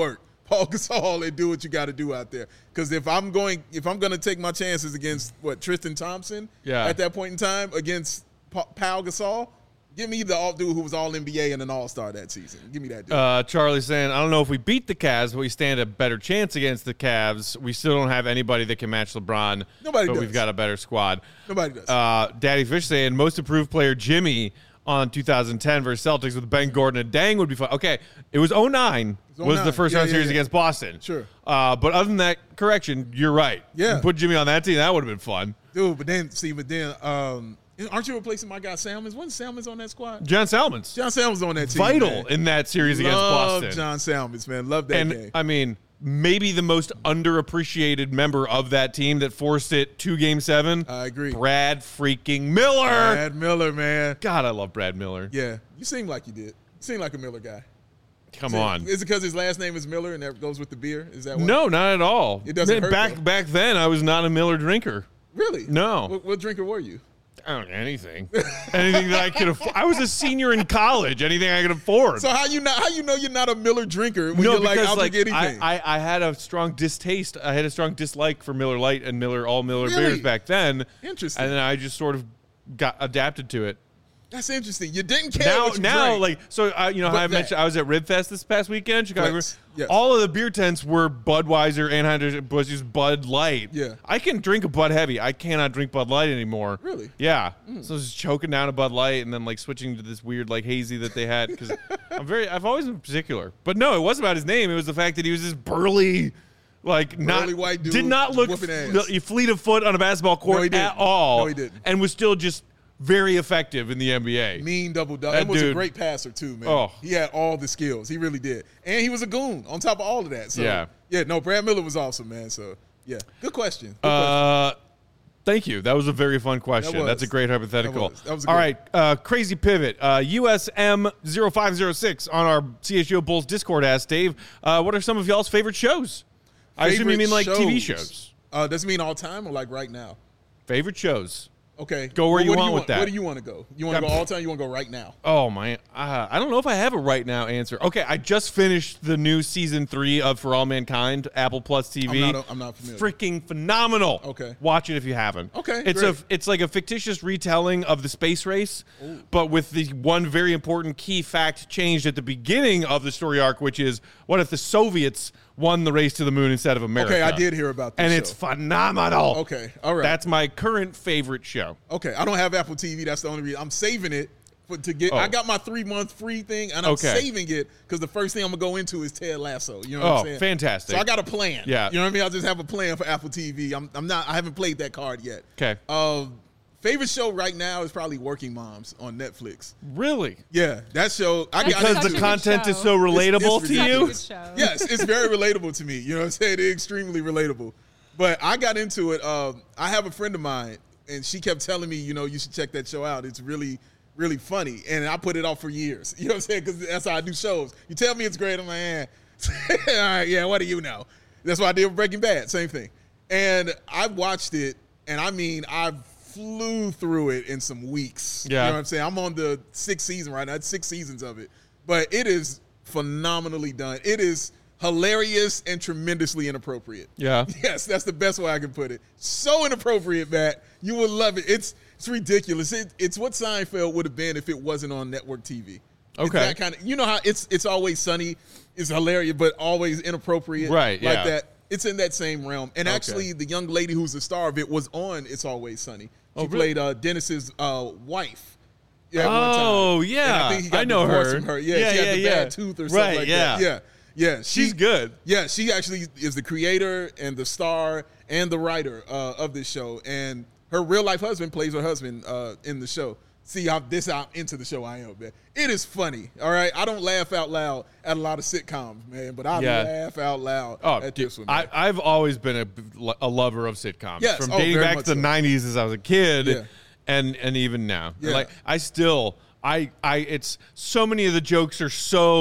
Paul Gasol and do what you got to do out there. Because if I'm going, if I'm going to take my chances against what Tristan Thompson Yeah. at that point in time against Pa- Paul Gasol, give me the all dude who was all N B A and an All Star that season. Give me that dude. Uh, Charlie saying, I don't know if we beat the Cavs, but we stand a better chance against the Cavs. We still don't have anybody that can match LeBron. Nobody but does. we've got a better squad. Nobody does. Uh, Daddy Fish saying, most improved player Jimmy on two thousand ten versus Celtics with Ben Gordon and Dang would be fun. Okay, it was oh nine was was the oh nine. first Yeah, round yeah, series yeah. against Boston. Sure. Uh, but other than that, correction, you're right. Yeah. You put Jimmy on that team, that would have been fun. Dude, but then see, but then um, aren't you replacing my guy Salmons? Wasn't Salmons on that squad? John Salmons, John Salmons on that team. vital man. in that series against Love Boston. John Salmons, man. Love that and game. I mean, maybe the most underappreciated member of that team that forced it to Game Seven. I agree. Brad freaking Miller. Brad Miller, man. God, I love Brad Miller. Yeah, you seem like you did. You seem like a Miller guy. Come Is it- on. Is it because his last name is Miller and that goes with the beer? Is that what? No, not at all. It doesn't Man, hurt, back though. back then, I was not a Miller drinker. Really? No. What, what drinker were you? I don't know anything. anything that I could afford. I was a senior in college. Anything I could afford. So how you not? How you know you're not a Miller drinker when no, you're like, because I'll like drink anything? I, I, I had a strong distaste. I had a strong dislike for Miller Lite and Miller all Miller Really? beers back then. Interesting. And then I just sort of got adapted to it. That's interesting. You didn't care Now, what you now, drank. like, so uh, you know, how But I that- mentioned I was at Ribfest this past weekend, Chicago. Yes, yes. All of the beer tents were Budweiser, Anheuser-Busch's Bud Light. Yeah. I can drink a Bud Heavy. I cannot drink Bud Light anymore. Really? Yeah. So I was just choking down a Bud Light and then like switching to this weird like hazy that they had because I'm very. I've always been particular, but no, it wasn't about his name. It was the fact that he was this burly. Like not Burly white dude did not look whooping ass. f- fleet of foot on a basketball court No, he didn't. at all. No, he didn't. And was still just very effective in the N B A. mean double double. That And was dude- a great passer too, man. Oh. He had all the skills. He really did, and he was a goon on top of all of that. So Yeah. yeah. No, Brad Miller was awesome, man. So yeah, good question. Good question. Uh, thank you. That was a very fun question. was. That's a great hypothetical. That was. That was a All good right, uh, crazy pivot. Uh, U S M zero five zero six on our C H G O Bulls Discord asked Dave, uh, what are some of y'all's favorite shows? I assume you Favorite mean like T V shows. Uh, does it mean all time or like right now? Favorite shows. Okay. Go where Well, you what do want with that. Where do you want to go? You want to Yeah. go all time? You want to go right now? Oh my! Uh, I don't know if I have a right now answer. Okay, I just finished the new season three of For All Mankind, Apple Plus T V. I'm not- I'm not familiar. Freaking phenomenal. Okay. watch it if you haven't. Okay, it's great. a it's like a fictitious retelling of the space race, but with the one very important key fact changed at the beginning of the story arc, which is what if the Soviets won the race to the moon instead of America? Okay, I did hear about this and show. it's phenomenal. Okay, all right. That's my current favorite show. Okay, I don't have Apple T V. That's the only reason I'm saving it for, to get. Oh. I got my three month free thing, and I'm Okay. saving it because the first thing I'm gonna go into is Ted Lasso. You know what Oh, I'm saying? fantastic. So I got a plan. Yeah. you know what I mean. I just have a plan for Apple T V. I'm, I'm not. I haven't played that card yet. Okay. Um, favorite show right now is probably Working Moms on Netflix. Really? Yeah, that show. I That's got Because such the a good content is show. so relatable it's to Such a you. good show. Yes, it's very relatable to me. You know what I'm saying? It's extremely relatable. But I got into it. Um, I have a friend of mine, and she kept telling me, you know, you should check that show out. It's really, really funny. And I put it off for years. You know what I'm saying? Because that's how I do shows. You tell me it's great, I'm like, eh. All right, yeah, what do you know? That's what I did with Breaking Bad. Same thing. And I watched it, and I mean, I flew through it in some weeks. Yeah. You know what I'm saying? I'm on the sixth season right now. It's six seasons of it. But it is phenomenally done. It is hilarious and tremendously inappropriate. Yeah. Yes, that's the best way I can put it. So inappropriate, Matt. You would love it. It's it's ridiculous. It, it's what Seinfeld would have been if it wasn't on network T V. It's Okay. that kind of, you know how it's it's always sunny, it's hilarious, but always inappropriate. Right, Like yeah. that. It's in that same realm. And Okay. actually, the young lady who's the star of it was on It's Always Sunny. She Oh, really? played uh, Dennis's uh, wife. Yeah, at one time. Oh, And yeah. I think he got I know divorced her. from her. Yeah, Yeah, she had yeah, the yeah. bad tooth or something Right, like yeah. that. Yeah. Yeah, she, She's good. Yeah, she actually is the creator and the star and the writer uh, of this show. And her real life husband plays her husband uh, in the show. See how this how into the show I am, man. It is funny, all right? I don't laugh out loud at a lot of sitcoms, man, but I Yeah. laugh out loud Oh, at dude, this one. I, Man. I've always been a, a lover of sitcoms. Yes. From Oh, dating very back much to the so. nineties as I was a kid Yeah. and and even now. Yeah. Like I still I I it's so many of the jokes are so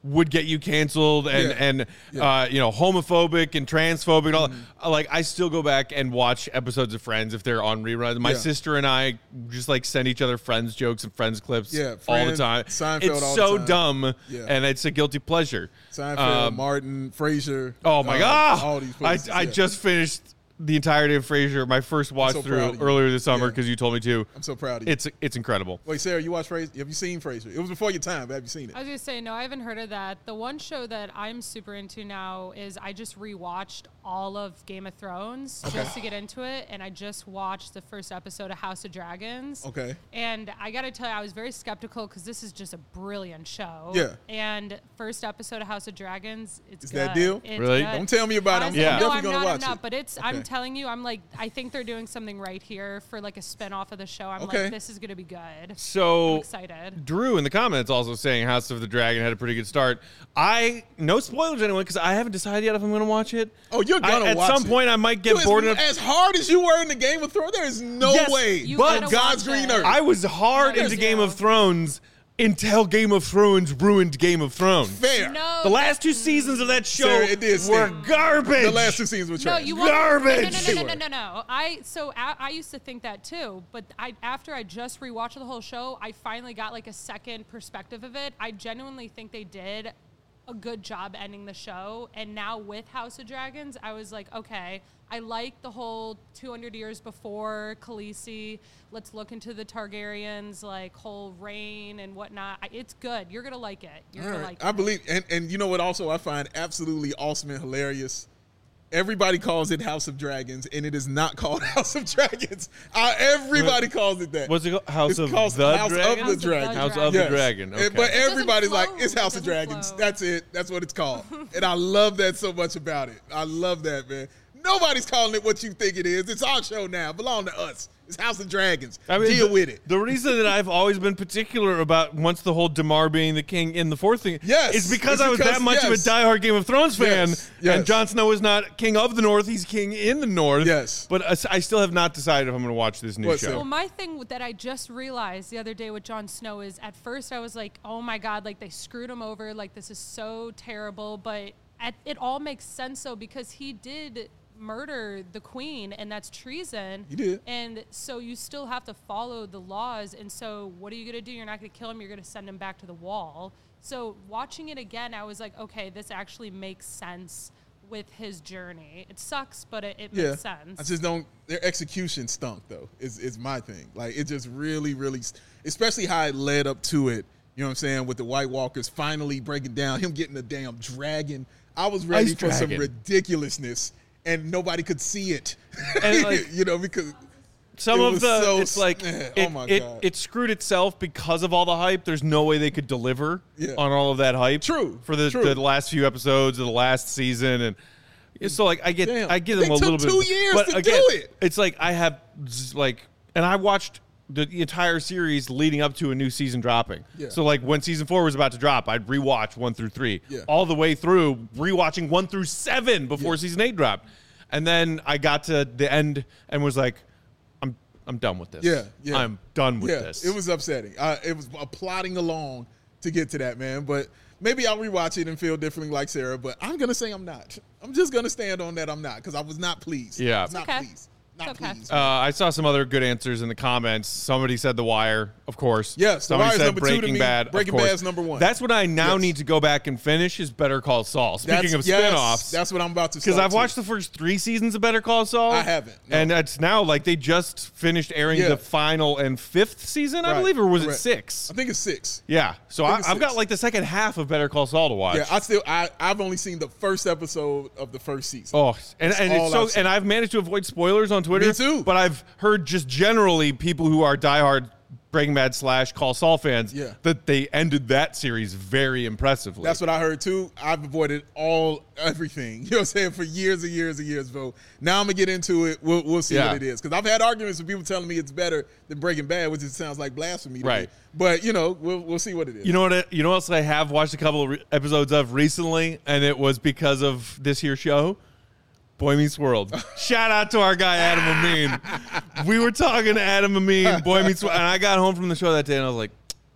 would get you canceled and Yeah. and Yeah. uh, you know, homophobic and transphobic and all. Uh, Like I still go back and watch episodes of Friends if they're on reruns. My Yeah. sister and I just like send each other Friends jokes and Friends clips Yeah, all the Friends, time. Seinfeld it's all the so time. dumb, Yeah. and it's a guilty pleasure. Seinfeld, Um, Martin, Frasier. Oh my uh, god! All these I places, I yeah. just finished the entirety of Frasier, my first watch so through proud of you. earlier this summer Yeah. because you told me to. I'm so proud of you. It's it's incredible. Wait, Sarah, you watch Frasier? Have you seen Frasier? It was before your time, but have you seen it? I was gonna say no, I haven't heard of that. The one show that I'm super into now is I just rewatched all of Game of Thrones just to get into it, and I just watched the first episode of House of Dragons. Okay. And I gotta tell you, I was very skeptical because this is just a brilliant show. Yeah. And first episode of House of Dragons, it's Is good. that deal? It's Really? good. Don't tell me about it. I'm, Honestly, Yeah. I'm no, definitely I'm going not, to I'm watch not, it. but it's. I'm Okay. telling you, I'm like, I think they're doing something right here for like a spinoff of the show. I'm Okay. like, this is gonna be good. I'm So excited. Drew in the comments also saying House of the Dragon had a pretty good start. I no spoilers anyone because I haven't decided yet if I'm going to watch it. Oh, you're I- gonna at watch some it. point I might get Dude, bored as, enough. as hard as you were in the Game of Thrones, there is no Yes, way. You but gotta God's watch green it. earth. I was hard There's into Game no- of Thrones until Game of Thrones ruined Game of Thrones. Fair. No, The last two seasons of that show Sarah, it did were stink. garbage. The last two seasons were No, trash. you want Garbage. No, no, no, no, no, no, no. I so I, I used to think that too, but I after I just rewatched the whole show, I finally got like a second perspective of it. I genuinely think they did a good job ending the show, and now with House of Dragons, I was like, okay, I like the whole two hundred years before Khaleesi. Let's look into the Targaryens, like whole reign and whatnot. I, it's good. You're gonna like it. You're All gonna right. like I it. believe, and, and you know what? Also, I find absolutely awesome and hilarious. Everybody calls it House of Dragons, and it is not called House of Dragons. Uh, everybody calls it that. What's it called? House It's of called the House Dragon? of House the of the Dragon. House Dragon. of Yes. the Dragon. And- Okay. But doesn't everybody's like, flow. it's It House of doesn't Dragons. flow. That's it. That's what it's called. And I love that so much about it. I love that, man. Nobody's calling it what you think it is. It's our show now. It belong to us. It's House of Dragons. I mean, Deal the, with it. The reason that I've always been particular about once the whole Damar being the king in the fourth thing Yes, is because it's I was because- that much yes. of a diehard Game of Thrones fan, Yes, yes. and Jon Snow is not king of the North; he's king in the North. Yes. but uh, I still have not decided if I'm going to watch this new What, show. Sarah? Well, my thing that I just realized the other day with Jon Snow is at first I was like, oh my God, like they screwed him over. Like this is so terrible. But at, it all makes sense though because he did murder the queen and that's treason. He did. And so you still have to follow the laws. And so what are you going to do? You're not going to kill him. You're going to send him back to the wall. So watching it again, I was like, okay, this actually makes sense with his journey. It sucks, but it, it Yeah. makes sense. I just don't. Their execution stunk though. Is is my thing. Like it just really, really, especially how it led up to it. You know what I'm saying? With the White Walkers finally breaking down, him getting a damn dragon. I was ready Ice for some dragon. ridiculousness, and nobody could see it. And, like, you know, because Some it of was the so it's like s- it, oh my it, God. it screwed itself because of all the hype. There's no way they could deliver Yeah. on all of that hype. True, for the, true. the last few episodes of the last season, and so like I get Damn, I give they them a took little bit. two years but to do again, it. It's like I have z- like, and I watched the entire series leading up to a new season dropping. Yeah. So like when season four was about to drop, I'd rewatch one through three, Yeah. all the way through, rewatching one through seven before Yeah. season eight dropped, and then I got to the end and was like, I'm I'm done with this. Yeah, yeah. I'm done with yeah, this. it was upsetting. Uh, it was uh, plodding along to get to that, man. But maybe I'll rewatch it and feel differently like Sarah. But I'm gonna say I'm not. I'm just gonna stand on that. I'm not because I was not pleased. Yeah. I was not Okay. pleased. Not It's okay. pleased. Uh, I saw some other good answers in the comments. Somebody said The Wire, of course. Yes, The Somebody Wire's said number two to Breaking me. Bad. of Breaking course. Bad's number one. That's what I now Yes. need to go back and finish is Better Call Saul. Speaking of yes, spinoffs, that's what I'm about to. because start I've watched too. the first three seasons of Better Call Saul. I haven't, no. And it's now like they just finished airing Yeah. the final and fifth season, I Right, believe, or was correct. it six? I think it's six. Yeah. So I I think it's I've got six. like the second half of Better Call Saul to watch. Yeah, I still I I've only seen the first episode of the first season. Oh, and, and all it's so, I've seen. and I've managed to avoid spoilers on Twitter. Me too. But I've heard just generally people who are diehard Breaking Bad slash Call Saul fans Yeah. that they ended that series very impressively. That's what I heard too. I've avoided all everything. You know what I'm saying for years and years and years, bro. Now I'm gonna get into it. We'll, we'll see Yeah. what it is because I've had arguments with people telling me it's better than Breaking Bad, which it sounds like blasphemy to Right. me. But you know, we'll we'll see what it is. You know what? it- You know what else I have watched a couple of re- episodes of recently, and it was because of this here show. Boy Meets World. Shout out to our guy Adam Amin. We were talking to Adam Amin, Boy Meets World, and I got home from the show that day, and I was like,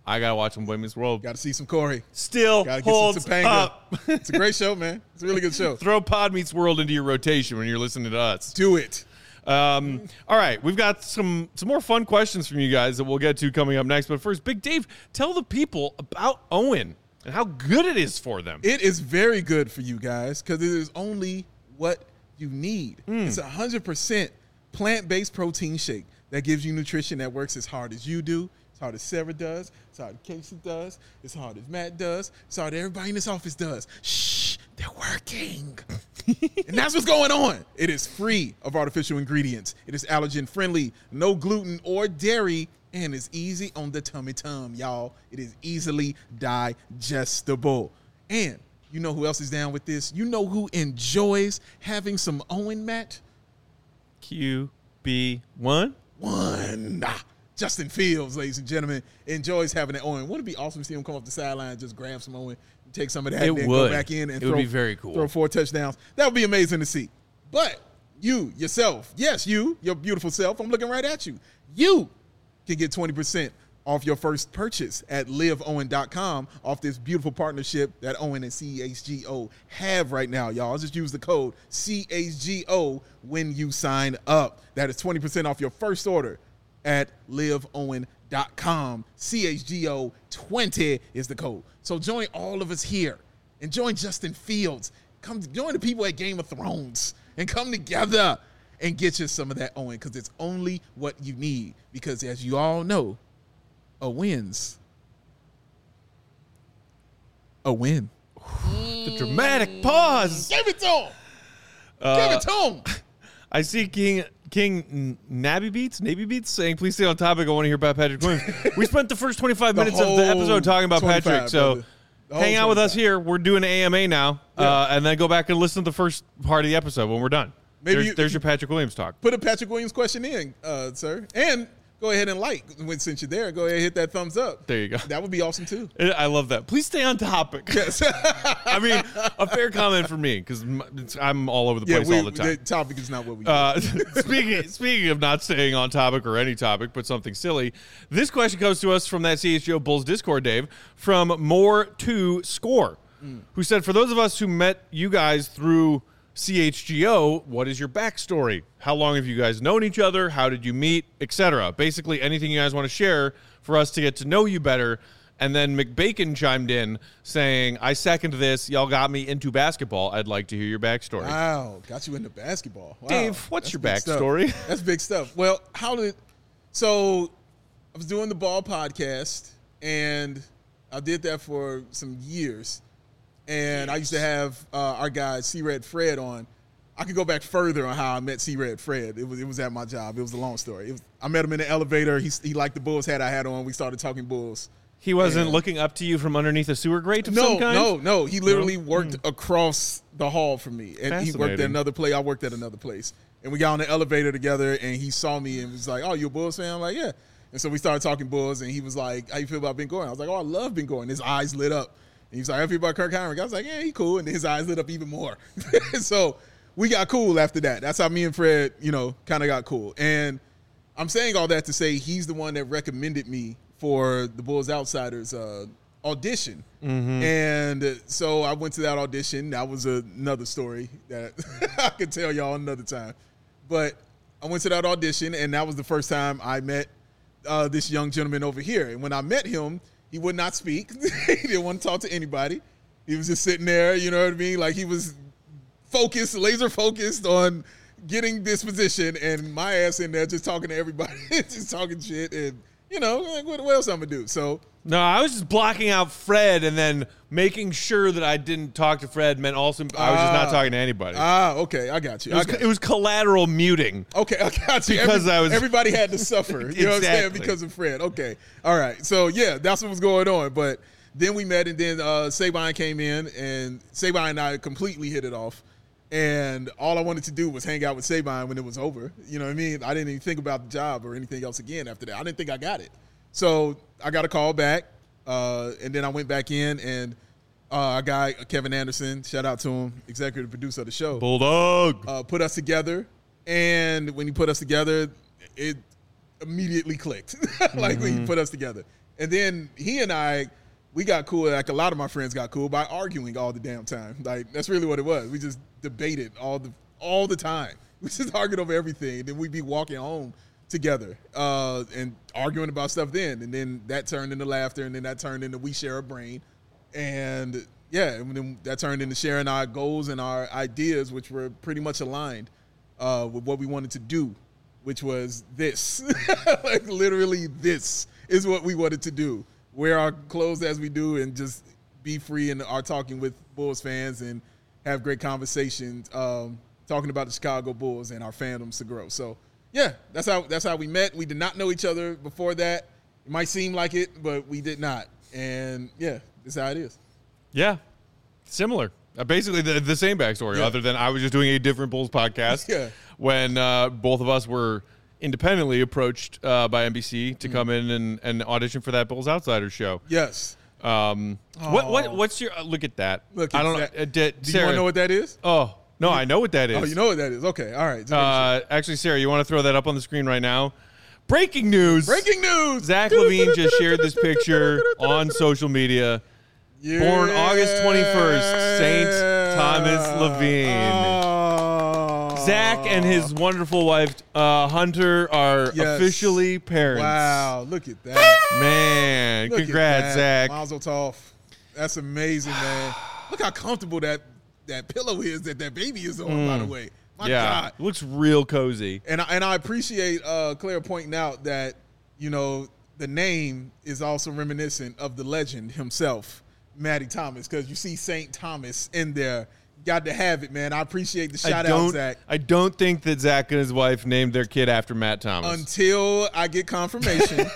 I gotta watch some Boy Meets World. Got to see some Corey. Still Got to get holds some Topanga. up. It's a great show, man. It's a really good show. Throw Pod Meets World into your rotation when you're listening to us. Do it. Um, all right, we've got some some more fun questions from you guys that we'll get to coming up next. But first, Big Dave, tell the people about Owen and how good it is for them. It is very good for you guys because it is only what you need. Mm. It's a one hundred percent plant-based protein shake that gives you nutrition that works as hard as you do, as hard as Sarah does, as hard as Casey does, as hard as Matt does, as hard as everybody in this office does. Shh, they're working. And that's what's going on. It is free of artificial ingredients. It is allergen-friendly, no gluten or dairy, and it's easy on the tummy-tum, y'all. It is easily digestible. And you know who else is down with this? You know who enjoys having some Owen, Matt? Q B one? One. Ah, Justin Fields, ladies and gentlemen, enjoys having that Owen. Wouldn't it be awesome to see him come off the sideline and just grab some Owen, take some of that, It and then would. go back in and It throw, would be very cool. throw four touchdowns? That would be amazing to see. But you, yourself, yes, you, your beautiful self, I'm looking right at you. You can get twenty percent off your first purchase at live owen dot com off this beautiful partnership that Owen and C H G O have right now, y'all. Just use the code C H G O when you sign up. That is twenty percent off your first order at live owen dot com. C H G O twenty is the code. So join all of us here and join Justin Fields. Come join the people at Game of Thrones and come together and get you some of that Owen because it's only what you need. Because as you all know, a win's a win. The dramatic pause. Give it to him. Uh, Give it to him. I see King King Nabby Beats, Navy Beats saying, please stay on topic. I want to hear about Patrick Williams. We spent the first twenty-five The minutes of the whole episode talking about Patrick. twenty-five, So brother. The whole hang out with us twenty-five. here. We're doing an A M A now. Yeah. Uh, and then go back and listen to the first part of the episode when we're done. Maybe there's, you- there's your Patrick Williams talk. Put a Patrick Williams question in, uh, sir. And go ahead and like. When since you're there, go ahead and hit that thumbs up. There you go. That would be awesome too. I love that. Please stay on topic. Yes. I mean, a fair comment for me because I'm all over the yeah, place we, all the time. the topic is not what we do. Uh, speaking speaking of not staying on topic or any topic, but something silly, this question comes to us from that C H G O Bulls Discord, Dave, from More to Score, mm. who said, for those of us who met you guys through C H G O, what is your backstory? How long have you guys known each other? How did you meet, et cetera? Basically, anything you guys want to share for us to get to know you better. And then McBacon chimed in saying, I second this. Y'all got me into basketball. I'd like to hear your backstory. Wow, got you into basketball. Wow. Dave, what's That's your big stuff. backstory? That's big stuff. Well, how did so I was doing the Ball podcast and I did that for some years. And I used to have uh, our guy C-Red Fred on. I could go back further on how I met C-Red Fred. It was it was at my job. It was a long story. It was, I met him in the elevator. He he liked the Bulls hat I had on. We started talking Bulls. He wasn't Yeah. looking up to you from underneath a sewer grate of No, some kind? no, no. He literally No? worked Hmm. across the hall from me. And he worked at Fascinating. another place. I worked at another place. And we got on the elevator together, and he saw me and was like, oh, you a Bulls fan? I'm like, yeah. And so we started talking Bulls, and he was like, how you feel about Ben Gordon? I was like, oh, I love Ben Gordon. His eyes lit up. And he was like, how you feel about Kirk Heinrich? I was like, yeah, he cool. And then his eyes lit up even more. So we got cool after that. That's how me and Fred, you know, kind of got cool. And I'm saying all that to say he's the one that recommended me for the Bulls Outsiders uh, audition. Mm-hmm. And so I went to that audition. That was another story that I could tell y'all another time. But I went to that audition, and that was the first time I met uh, this young gentleman over here. And when I met him, he would not speak. He didn't want to talk to anybody. He was just sitting there, you know what I mean? Like he was focused, laser focused on getting this position, and my ass in there just talking to everybody, just talking shit, and you know, like, what, what else I'm gonna do? So No, I was just blocking out Fred and then making sure that I didn't talk to Fred meant also I was just not Ah. talking to anybody. ah, okay, I got you. it, I was, got it you. was collateral muting. Okay, I got you. Because I was- everybody had to suffer. You know what I'm saying? Exactly. Because of Fred. Okay. All right. So yeah, that's what was going on. But then we met, and then uh, Sabine came in, and Sabine and I completely hit it off. And all I wanted to do was hang out with Sabine when it was over. You know what I mean? I didn't even think about the job or anything else again after that. I didn't think I got it. So I got a call back, uh, and then I went back in, and uh, our guy, Kevin Anderson, shout out to him, executive producer of the show, Bulldog. uh, put us together. And when he put us together, it immediately clicked. Like when he put us together. And then he and I, we got cool, like a lot of my friends got cool by arguing all the damn time. Like, that's really what it was. We just debated all the all the time. We just argued over everything. And then we'd be walking home together uh, and arguing about stuff then. And then that turned into laughter, and then that turned into we share a brain. And, yeah, and then that turned into sharing our goals and our ideas, which were pretty much aligned uh, with what we wanted to do, which was this. Like, literally this is what we wanted to do. Wear our clothes as we do and just be free in our talking with Bulls fans and have great conversations um, talking about the Chicago Bulls and our fandoms to grow. So, yeah, that's how that's how we met. We did not know each other before that. It might seem like it, but we did not. And, yeah, that's how it is. Yeah, similar. Uh, basically the, the same backstory, Yeah. other than I was just doing a different Bulls podcast Yeah. when uh, both of us were independently approached uh, by N B C to come in and, and audition for that Bulls Outsiders show. Yes. Um, what what what's your uh, look at that? Look, I don't it's know. Uh, that- did, Do you Sarah, want to know what that is? Oh no, I know what that is. Oh, you know what that is. Okay, all right. Uh, actually, Sarah, you want to throw that up on the screen right now? Breaking news! Breaking news! Zach LaVine just shared this picture on social media. Yeah. Born August twenty-first, Saint Thomas Levine. Oh. Zach and his wonderful wife, uh, Hunter, are Yes. officially parents. Wow, look at that. Man, Look congrats, at Zach. that. Mazel tov. That's amazing, man. Look how comfortable that, that pillow is that that baby is on, by the way. My yeah, God. looks real cozy. And I, and I appreciate uh, Claire pointing out that, you know, the name is also reminiscent of the legend himself, Matty Thomas, because you see Saint Thomas in there. Got to have it, man. I appreciate the I shout out, don't, Zach. I don't think that Zach and his wife named their kid after Matt Thomas. Until I get confirmation,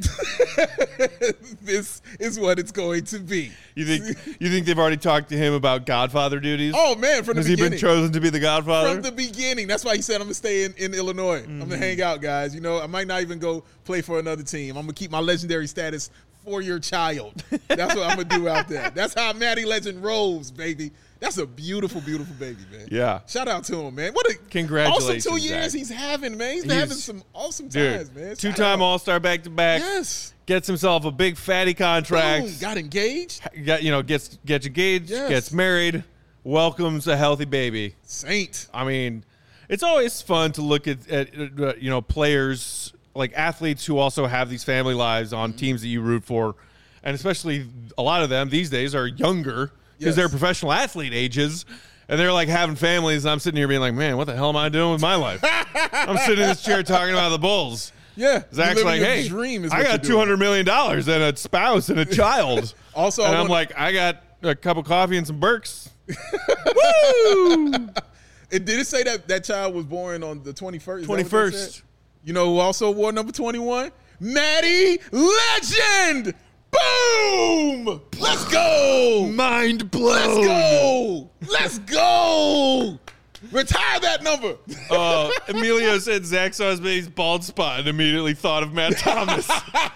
this is what it's going to be. you think you think they've already talked to him about Godfather duties? Oh, man, from the Has he beginning. been chosen to be the Godfather? From the beginning. That's why he said I'm going to stay in, in Illinois. Mm-hmm. I'm going to hang out, guys. You know, I might not even go play for another team. I'm going to keep my legendary status for your child. That's what I'm going to do out there. That's how Matty Legend rolls, baby. That's a beautiful, beautiful baby, man. Yeah. Shout out to him, man. What a Congratulations, awesome two years Zach. he's having, man. He's been He's- having some awesome Dude, times, man. Shout two-time out. All-Star back-to-back. Yes. Gets himself a big fatty contract. Boom. Got engaged. Got, you know, gets gets engaged, Yes. gets married, welcomes a healthy baby. Saint. I mean, it's always fun to look at, at uh, you know, players, like athletes who also have these family lives on Mm-hmm. teams that you root for. And especially a lot of them these days are younger because Yes. they're professional athlete ages. And they're like having families. And I'm sitting here being like, man, what the hell am I doing with my life? I'm sitting in this chair talking about the Bulls. Yeah. Zach's You're like, living your hey, dream is I what got you're two doing. hundred million dollars and a spouse and a child. Also, and I I'm wanna- like, I got a cup of coffee and some Burks. Woo! It did it say that that child was born on the twenty-first? twenty-first. You know who also wore number twenty-one? Matty Legend! Boom! Let's go! Mind blown. Let's go! Let's go! Retire that number. Uh, Emilio said Zach saw his baby's bald spot and immediately thought of Matt Thomas.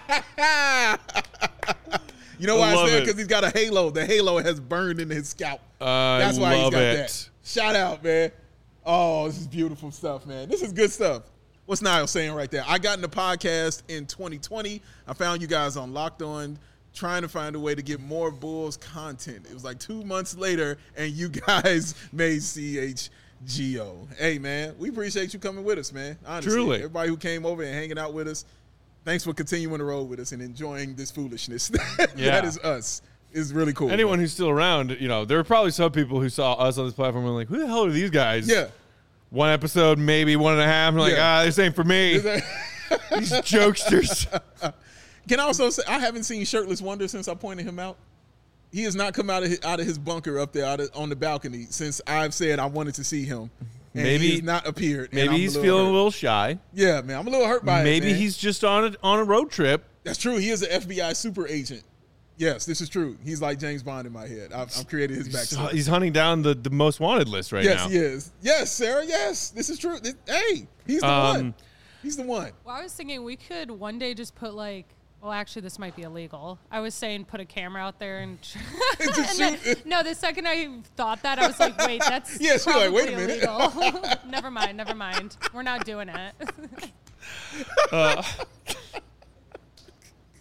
You know why I love it's there? it. Because he's got a halo. The halo has burned into his scalp. I That's why he's love got it. that. Shout out, man. Oh, this is beautiful stuff, man. This is good stuff. What's Niall saying right there? I got in the podcast in twenty twenty. I found you guys on Locked On, trying to find a way to get more Bulls content. It was like two months later, and you guys made C H G O. Hey, man, we appreciate you coming with us, man. Honestly, Truly. everybody who came over and hanging out with us, thanks for continuing to roll with us and enjoying this foolishness. Yeah. That is us. It's really cool. Anyone man. who's still around, you know, there were probably some people who saw us on this platform and were like, who the hell are these guys? Yeah. One episode, maybe one and a half. And like, Yeah. ah, this ain't for me. These jokesters. Can I also say I haven't seen Shirtless Wonder since I pointed him out. He has not come out of his, out of his bunker up there out of, on the balcony since I've said I wanted to see him. And Maybe- he has not appeared. and Maybe I'm he's a feeling hurt. a little shy. Yeah, man, I'm a little hurt by it. Maybe man. he's just on a, on a road trip. That's true. He is an F B I super agent. Yes, this is true. He's like James Bond in my head. I've, I've created his He's, backstory. he's hunting down the, the most wanted list right Yes, now. he is. Yes, Sarah. Yes, this is true. This- hey, he's the Um, one. He's the one. Well, I was thinking we could one day just put like, well, actually, this might be illegal. I was saying put a camera out there and. and then, shoot. no, the second I thought that, I was like, wait, that's Yeah, she was like, wait a probably minute. illegal. never mind, never mind. We're not doing it.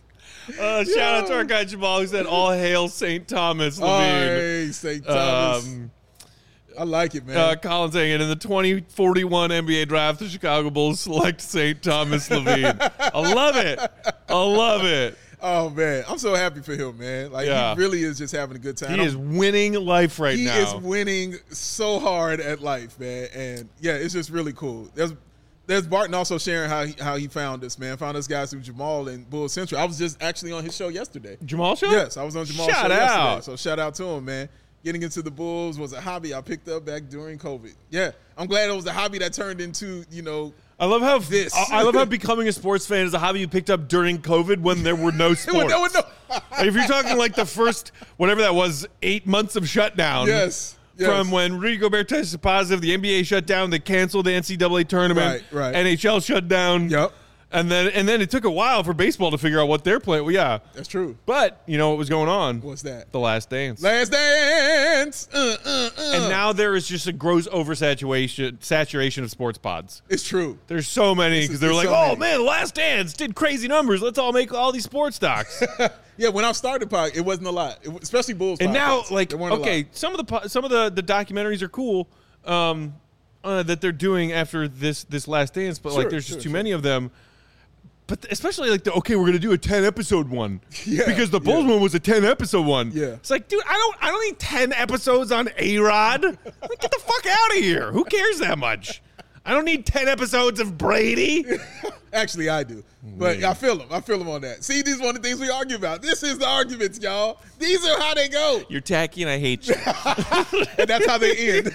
Uh, shout out to our guy Jamal who said, "All hail Saint Thomas Oh, Levine." hey, Saint Thomas. Um, I like it, man. uh, Colin saying it in the twenty forty-one N B A draft, the Chicago Bulls select Saint Thomas Levine. I love it. I love it. Oh man, I'm so happy for him, man. Like Yeah. he really is just having a good time. He I'm- is winning life right he now. is winning so hard at life, man. And yeah, it's just really cool. There's there's Barton also sharing how he, how he found us, man. Found us guys through Jamal and Bull Central. I was just actually on his show yesterday. Jamal show? Yes, I was on Jamal's Shout show out. yesterday. So shout out to him, man. Getting into the Bulls was a hobby I picked up back during COVID. Yeah, I'm glad it was a hobby that turned into, you know, I love how This. I I love how becoming a sports fan is a hobby you picked up during COVID when there were no sports. no, no. Like, if you're talking like the first whatever that was, eight months of shutdown. Yes. Yes. From when Rudy Gobert tested positive, the N B A shut down, they canceled the N C double A tournament, Right, right. N H L shut down. Yep. And then and then it took a while for baseball to figure out what they're playing. Well, yeah. That's true. But you know what was going on? What's that? The Last Dance. Last Dance. Uh, uh, uh. And now there is just a gross oversaturation saturation of sports pods. It's true. There's so many because they're there's like, so oh many. man, Last Dance did crazy numbers. Let's all make all these sports docs. Yeah, when I started pod, it wasn't a lot, it, especially Bulls. And now, podcasts. like, There weren't a okay, lot. some of the po- some of the, the documentaries are cool um, uh, that they're doing after this this Last Dance, but like, Sure, there's just sure, too sure. many of them. But especially like the okay, we're gonna do a ten episode one Yeah, because the Bulls yeah. one was a ten episode one. Yeah. It's like, dude, I don't I don't need ten episodes on A-Rod. Like, get the fuck out of here. Who cares that much? I don't need ten episodes of Brady. Actually, I do, but I feel them. I feel them on that. See, these are one of the things we argue about. This is the arguments, y'all. These are how they go, You're tacky and I hate you. and that's how they end.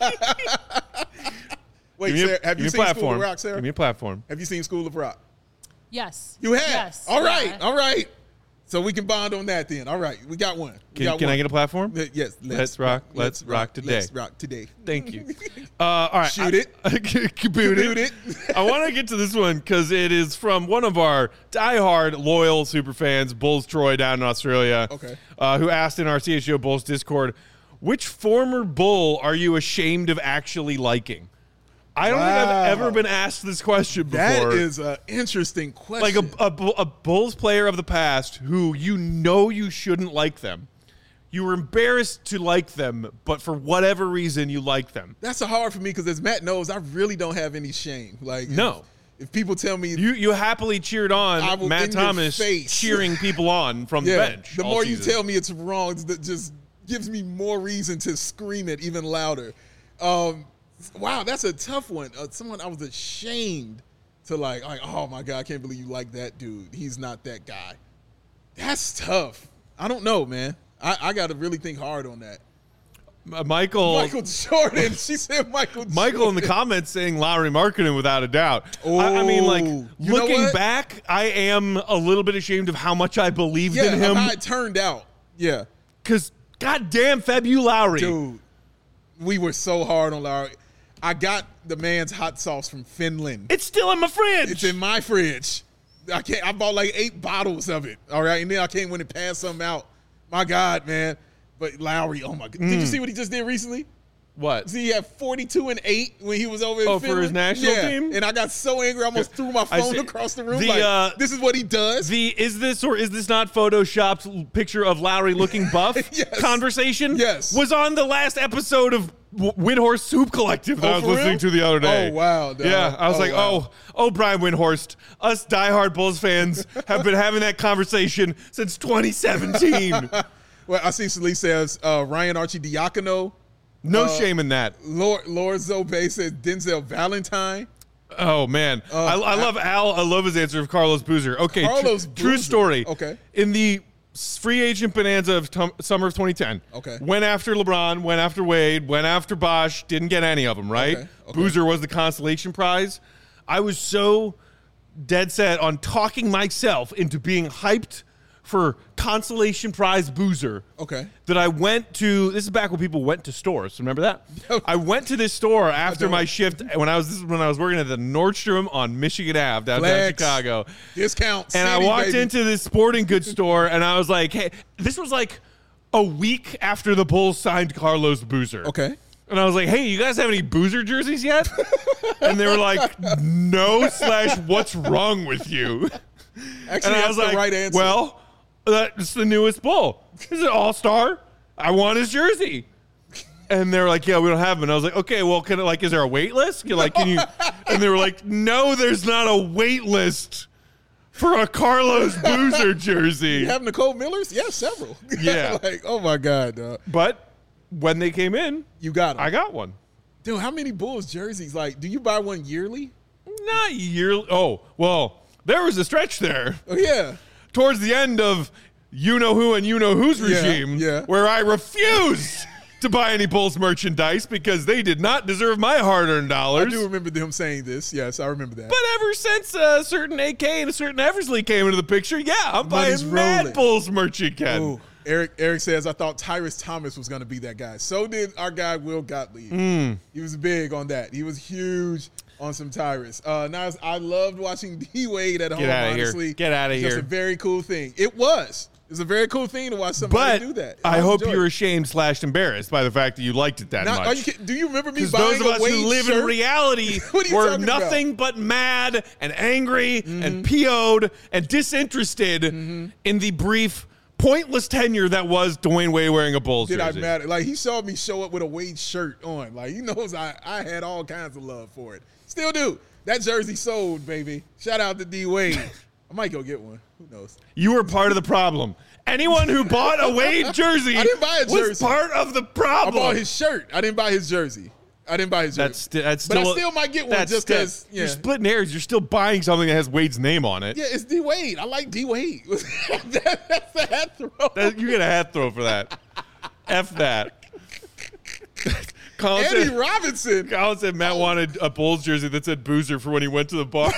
Wait, Give me a- Sarah, have give me you a seen School platform. of Rock, Sarah? Give me a platform. Have you seen School of Rock? Yes. You have. Yes. All right. Yeah. All right. So we can bond on that then. All right. We got one. We Can, got can one. I get a platform? Uh, Yes. Let's rock, let's rock today. Let's rock today. Thank you. Uh, all right. Shoot I- it. Kaboot Kaboot it. it. I want to get to this one because it is from one of our diehard loyal super fans, Bulls Troy down in Australia. Okay. Uh, who asked in our C H G O Bulls Discord, which former Bull are you ashamed of actually liking? I don't think Wow. I've ever been asked this question before. That is an interesting like question. a, a, Bu- a Bulls player of the past who you know you shouldn't like them. You were embarrassed to like them, but for whatever reason you like them. That's a hard for me because as Matt knows, I really don't have any shame. Like No. if, if people tell me, You you happily cheered I on will Matt in your Thomas face. cheering people on from yeah, the bench. the all more you season. tell me it's wrong, that just gives me more reason to scream it even louder. Um, wow, that's a tough one. Uh, someone I was ashamed to like, like, oh my God, I can't believe you like that dude. He's not that guy. That's tough. I don't know, man. I, I got to really think hard on that. Uh, Michael Michael Jordan. She said Michael Jordan. Michael in the comments saying Lowry Markkinen without a doubt. I, I mean, like, Oh, you know looking what? back, I am a little bit ashamed of how much I believed Yeah, in him. how it turned out. Yeah. Because, goddamn, Fab, you Lowry. Dude, we were so hard on Lowry. I got the man's hot sauce from Finland. It's still in my fridge. It's in my fridge. I can't. I bought like eight bottles of it. All right, and then I came when it passed something out. My God, man. But Lowry, oh my God, did you Mm. see what he just did recently? What? See, he had forty-two and eight when he was over in Oh, for Finland. his national yeah. team? And I got so angry, I almost threw my I phone see. across the room. The, like, uh, this is what he does. The is this or is this not photoshopped l- picture of Lowry looking buff Yes. conversation? Yes. Was on the last episode of W- Windhorst Soup Collective that Oh, I was for listening real? to the other day. Oh, wow, dog. Yeah, I was Oh, like, wow. oh, oh, Brian Windhorst, us diehard Bulls fans have been having that conversation since twenty seventeen. Well, I see Salih says uh, Ryan Archidiakono. No Uh, shame in that. Lord, Lord Zobe says Denzel Valentine. Oh man, Uh, I, I love Al. I love his answer of Carlos Boozer. Okay, tr- Carlos true Boozer. story. Okay. In the s- free agent bonanza of tom- summer of twenty ten. Okay. Went after LeBron, went after Wade, went after Bosh. Didn't get any of them. Right. Okay, okay. Boozer was the consolation prize. I was so dead set on talking myself into being hyped for consolation prize Boozer. Okay. That I went to. This is back when people went to stores. Remember that? I went to this store after don't. my shift when I was. This is when I was working at the Nordstrom on Michigan Avenue, downtown Flex. Chicago. Discount. And I City, walked baby. into this sporting goods store, and I was like, "Hey, this was like a week after the Bulls signed Carlos Boozer." Okay. And I was like, "Hey, you guys have any Boozer jerseys yet?" And they were like, "No." Slash, what's wrong with you? Actually, And I that's was the like, right answer. "Well, That's the newest Bull. He's an all-star. I want his jersey. And they were like, yeah, we don't have him. And I was like, okay, well, can it, like, is there a wait list? You're like, can you? And they were like, no, there's not a wait list for a Carlos Boozer jersey. You have Nicole Miller's? Yeah, several. Yeah. Like, oh my God, dog. But when they came in, You got them. I got one. Dude, how many Bulls jerseys? Like, do you buy one yearly? Not yearly. Oh, well, there was a stretch there Oh, yeah. towards the end of you know who and you know whose Yeah, regime yeah. where I refused to buy any Bulls merchandise because they did not deserve my hard-earned I dollars. do remember them saying this. Yes, I remember that. But ever since a certain A K and a certain Eversley came into the picture, yeah, I'm Money's buying mad rolling. Bulls merch again. Ooh, Eric Eric says, I thought Tyrus Thomas was going to be that guy. So did our guy, Will Gottlieb. Hmm. He was big on that. He was huge on some Tyrus. Uh, now, I loved watching D-Wade at home, Get outta here. honestly. Get outta It's just here. a very cool thing. It was. It was a very cool thing to watch somebody But do that. I hope enjoyed you were it. ashamed slash embarrassed by the fact that you liked it that Not, are you much. kidding? Do you remember me Because buying those of a us Wade who live shirt? in reality What are you were talking nothing about? but mad and angry Mm-hmm. and P O'd and disinterested in the brief, pointless tenure that was Dwayne Wade wearing a Bulls Did I jersey. matter? Like, he saw me show up with a Wade shirt on. Like, he knows I, I had all kinds of love for it. Still do. That jersey sold, baby. Shout out to D Wade. I might go get one. Who knows? You were part of the problem. Anyone who bought a Wade jersey I didn't buy a was jersey. part of the I problem. bought his shirt. I didn't buy his jersey. I didn't buy his jersey. That's sti- that's but still. I still might get one that's just sti- because. Yeah. You're splitting hairs. You're still buying something that has Wade's name on it. Yeah, it's D Wade. I like D Wade. that, that's the hat throw. That- you get a hat throw for that. F that. Colin Eddie said, Robinson. Colin said Matt wanted a Bulls jersey that said Boozer for when he went to the bars.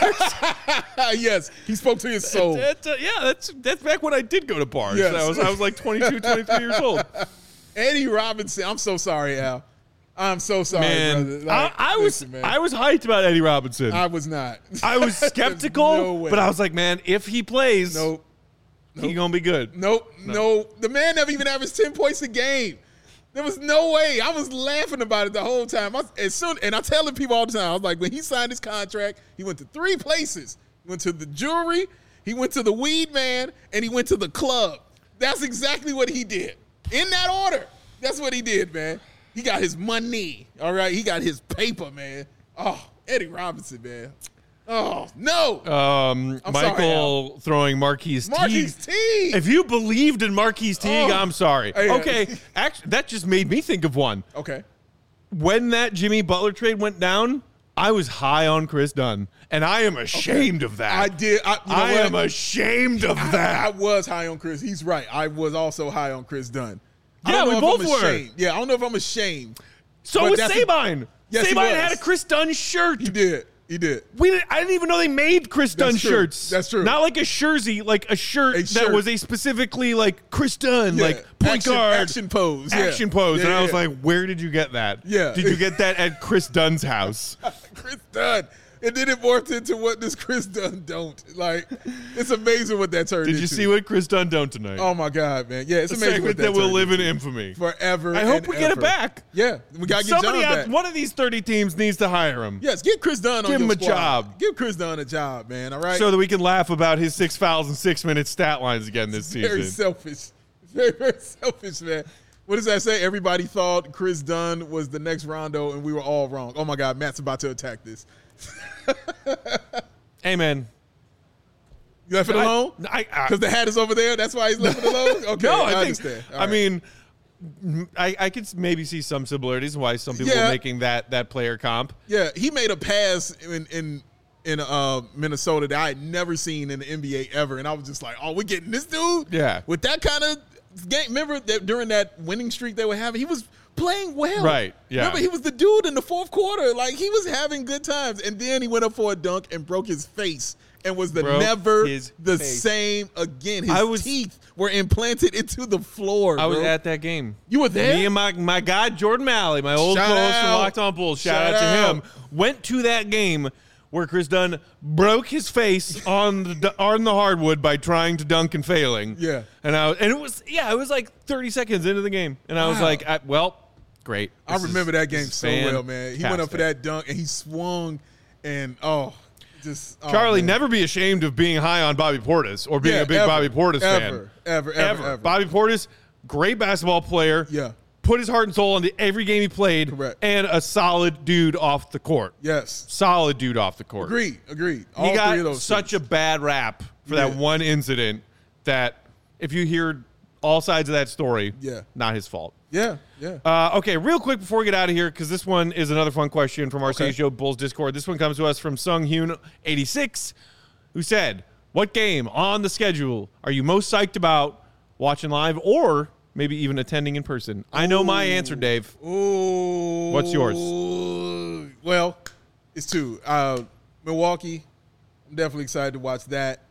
Yes, he spoke to his soul. That's, uh, yeah, that's that's back when I did go to bars. Yes. I was I was like twenty-two, twenty-three years old. Eddie Robinson. I'm so sorry, Al. I'm so sorry, Man, brother. Like, I, I was listen, man. I was hyped about Eddie Robinson. I was not. I was There's skeptical, no way. but I was like, man, if he plays, Nope. he gonna be good. Nope. No. The man never even averaged ten points a game. There was no way. I was laughing about it the whole time. I, as soon, and I'm telling people all the time, I was like, when he signed his contract, he went to three places. He went to the jewelry, he went to the weed man, and he went to the club. That's exactly what he did. In that order. That's what he did, man. He got his money. All right. He got his paper, man. Oh, Eddie Robinson, man. Oh, no. Um, I'm sorry, Michael throwing Marquise Teague. Marquise Teague. If you believed in Marquise Teague, Oh. I'm sorry. Hey, uh, Okay, actually, that just made me think of one. Okay. When that Jimmy Butler trade went down, I was high on Chris Dunn, and I am ashamed of that. I did. I, you know I what? am ashamed of I, that. I was high on Chris. He's right. I was also high on Chris Dunn. I Yeah, don't know we if both I'm were. ashamed. Yeah, I don't know if I'm ashamed. so but was that's- Sabine. Yes, he Sabine was. had a Chris Dunn shirt. He did. He did. We didn't, I didn't even know they made Chris Dunn That's true. shirts. That's true. Not like a jersey, like a shirt, A that shirt. was a specifically like Chris Dunn, Yeah. like point Action- guard, action pose, yeah. action pose. Yeah, and I yeah, was yeah. like, where did you get that? Yeah. Did you get that at Chris Dunn's house? Chris Dunn. And then it morphed into what does Chris Dunn don't. Like, it's amazing what that turned Did into. you see what Chris Dunn done tonight? Oh, my God, man. Yeah, it's a amazing segment what that, that will turned live in into. infamy. Forever I hope and we get it ever. back. Yeah. We got to get Somebody John out, back. one of these thirty teams needs to hire him. Yes, give Chris Dunn on Give your him a squad. job. Give Chris Dunn a job, man, all right? So that we can laugh about his six fouls and six minute stat lines again this Very season. selfish. Very, very selfish, man. What does that say? Everybody thought Chris Dunn was the next Rondo, and we were all wrong. Oh, my God. Matt's about to attack this. Hey, man. You left it alone? I, I, Because the hat is over there? That's why he's left it alone? Okay, no, I, I, think, understand. All I right. mean, I, I could maybe see some similarities in why some people Yeah. are making that that player comp. Yeah, he made a pass in in, in uh, Minnesota that I had never seen in the N B A ever, and I was just like, oh, we're getting this dude? Yeah. With that kind of game. Remember that during that winning streak they were having, he was playing well. Right, yeah. Remember, he was the dude in the fourth quarter. Like, he was having good times, and then he went up for a dunk and broke his face. And was the Broke never his the face. same again. His I was- teeth were implanted into the floor. I was bro. at that game. You were there? Me and my, my guy, Jordan Malley, my old Shout co-host from out. Locked On Bulls, shout, Shout out to out. him, went to that game where Chris Dunn broke his face on the on the hardwood by trying to dunk and failing. Yeah. And I and it was yeah, it was like thirty seconds into the game. And I was Wow. like, I, well, great. I This remember is- that game this is so well, man. He went up for fantastic. that dunk and he swung, and oh, Just oh, Charlie, man. never be ashamed of being high on Bobby Portis or being Yeah, a big ever, Bobby Portis ever, fan. Ever, ever, ever, ever. Bobby Portis, great basketball player. Yeah. Put his heart and soul into every game he played. Correct. And a solid dude off the court. Yes. Solid dude off the court. Agreed. Agreed. All He three got of those such things. a bad rap for that Yeah. one incident that if you hear all sides of that story, Yeah. not his fault. Yeah. Yeah. Uh, okay, real quick before we get out of here, because this one is another fun question from our Okay. C H O Bulls Discord. This one comes to us from Sung Hyun eighty-six, who said, what game on the schedule are you most psyched about watching live or maybe even attending in person? I know my answer, Dave. Ooh. What's yours? Well, it's two. Uh, Milwaukee. I'm definitely excited to watch that.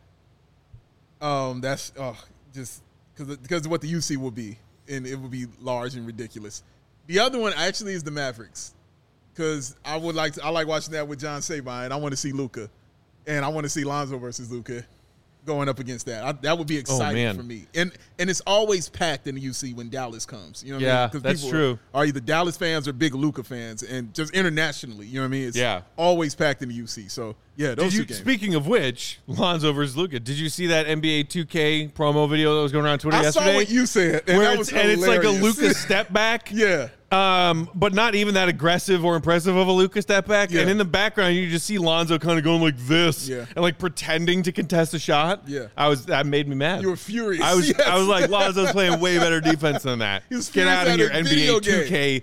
Um, that's oh, just because because of what the U C will be, and it will be large and ridiculous. The other one actually is the Mavericks, because I would like to, I like watching that with John Sabine. I want to see Luka, and I want to see Lonzo versus Luka going up against that. I, that would be exciting man. for me. And and it's always packed in the U C when Dallas comes. You know what Yeah, I mean? 'Cause that's people true. Are either Dallas fans or big Luka fans, and just internationally, you know what I mean? It's Yeah. always packed in the U C. So yeah, those Did you, two games. speaking of which, Lonzo versus Luka, did you see that N B A two K promo video that was going around Twitter I yesterday? saw what you said, and Where that it's, was and it's like a hilarious. Luka step back. Yeah. Um, but not even that aggressive or impressive of a Luka step back. Yeah. And in the background, you just see Lonzo kind of going like this, Yeah. and like pretending to contest a shot. Yeah. I was that made me mad. You were furious. I was Yes. I was like, Lonzo's playing way better defense than that. He was Get furious out of at here, a N B video A two K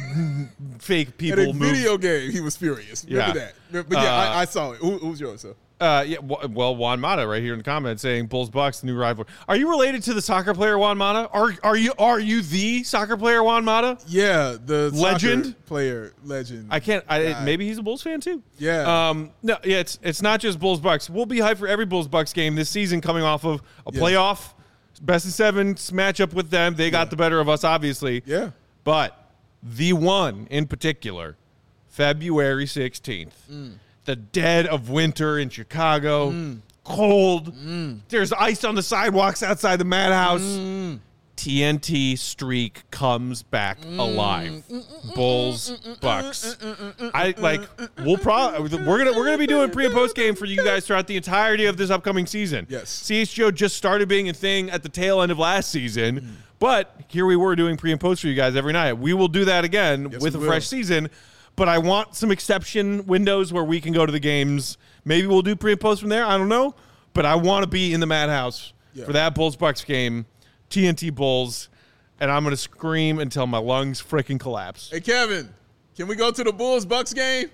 fake In people a move. video game, he was furious. Remember Yeah. that? But yeah, Uh, I, I saw it. Who, who's yours? So? Uh, yeah, w- well, Juan Mata right here in the comments saying Bulls Bucks new rival. Are you related to the soccer player Juan Mata? Are are you are you the soccer player Juan Mata? Yeah, the Legend? soccer player, legend. I can't. I, guy. maybe he's a Bulls fan too. Yeah. Um. No. Yeah. It's it's not just Bulls Bucks. We'll be hyped for every Bulls Bucks game this season, coming off of a Yeah. playoff best of seven matchup with them. They got Yeah. the better of us, obviously. Yeah. But the one in particular, February sixteenth, Mm. the dead of winter in Chicago, Mm. cold. There's ice on the sidewalks outside the madhouse. Mm. T N T streak comes back alive. Bulls, Bucks. I like. We'll probably we're gonna we're gonna be doing pre and post game for you guys throughout the entirety of this upcoming season. Yes. C H G O just started being a thing at the tail end of last season, but here we were doing pre and post for you guys every night. We will do that again Yes, with a we will. fresh season. But I want some exception windows where we can go to the games. Maybe we'll do pre and post from there. I don't know. But I want to be in the madhouse Yeah. for that Bulls Bucks game, T N T Bulls, and I'm going to scream until my lungs freaking collapse. Hey, Kevin, can we go to the Bulls Bucks game?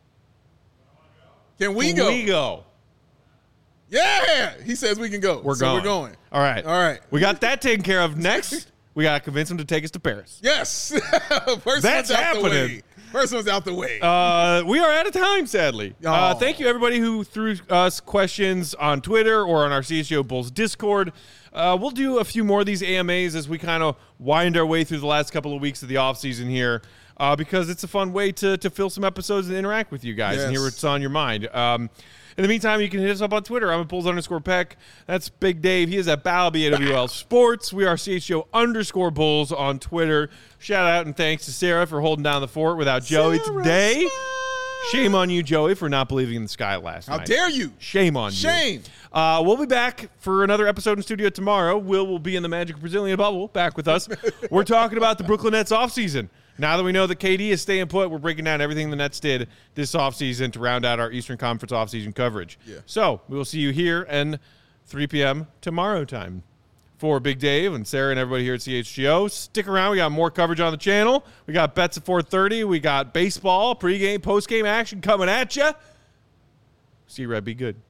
Can we go? We go. Yeah, he says we can go. We're so going. We're going. All right. All right. We got that taken care of. Next, we got to convince him to take us to Paris. Yes. First That's one's out the happening. way. First one's out the way. Uh, we are out of time, sadly. Uh, Oh. thank you, everybody who threw us questions on Twitter or on our C H G O Bulls Discord. Uh, we'll do a few more of these A M As as we kind of wind our way through the last couple of weeks of the offseason here, uh, because it's a fun way to, to fill some episodes and interact with you guys and hear Yes. what's on your mind. Um, in the meantime, you can hit us up on Twitter. I'm at Bulls underscore Peck. That's Big Dave. He is at Balby A W L Sports. We are C H G O underscore Bulls on Twitter. Shout out and thanks to Sarah for holding down the fort without Joey Sarah today. Smile. Shame on you, Joey, for not believing in the sky last How night. dare you? Shame on you. Shame. Uh, we'll be back for another episode in studio tomorrow. Will will be in the Magic Brazilian bubble, back with us. We're talking about the Brooklyn Nets offseason. Now that we know that K D is staying put, we're breaking down everything the Nets did this offseason to round out our Eastern Conference offseason coverage. Yeah. So we will see you here and three p.m. tomorrow time. For Big Dave and Sarah and everybody here at C H G O, stick around. We got more coverage on the channel. We got bets at four thirty. We got baseball, pregame, postgame action coming at you. See you, Red. Be good.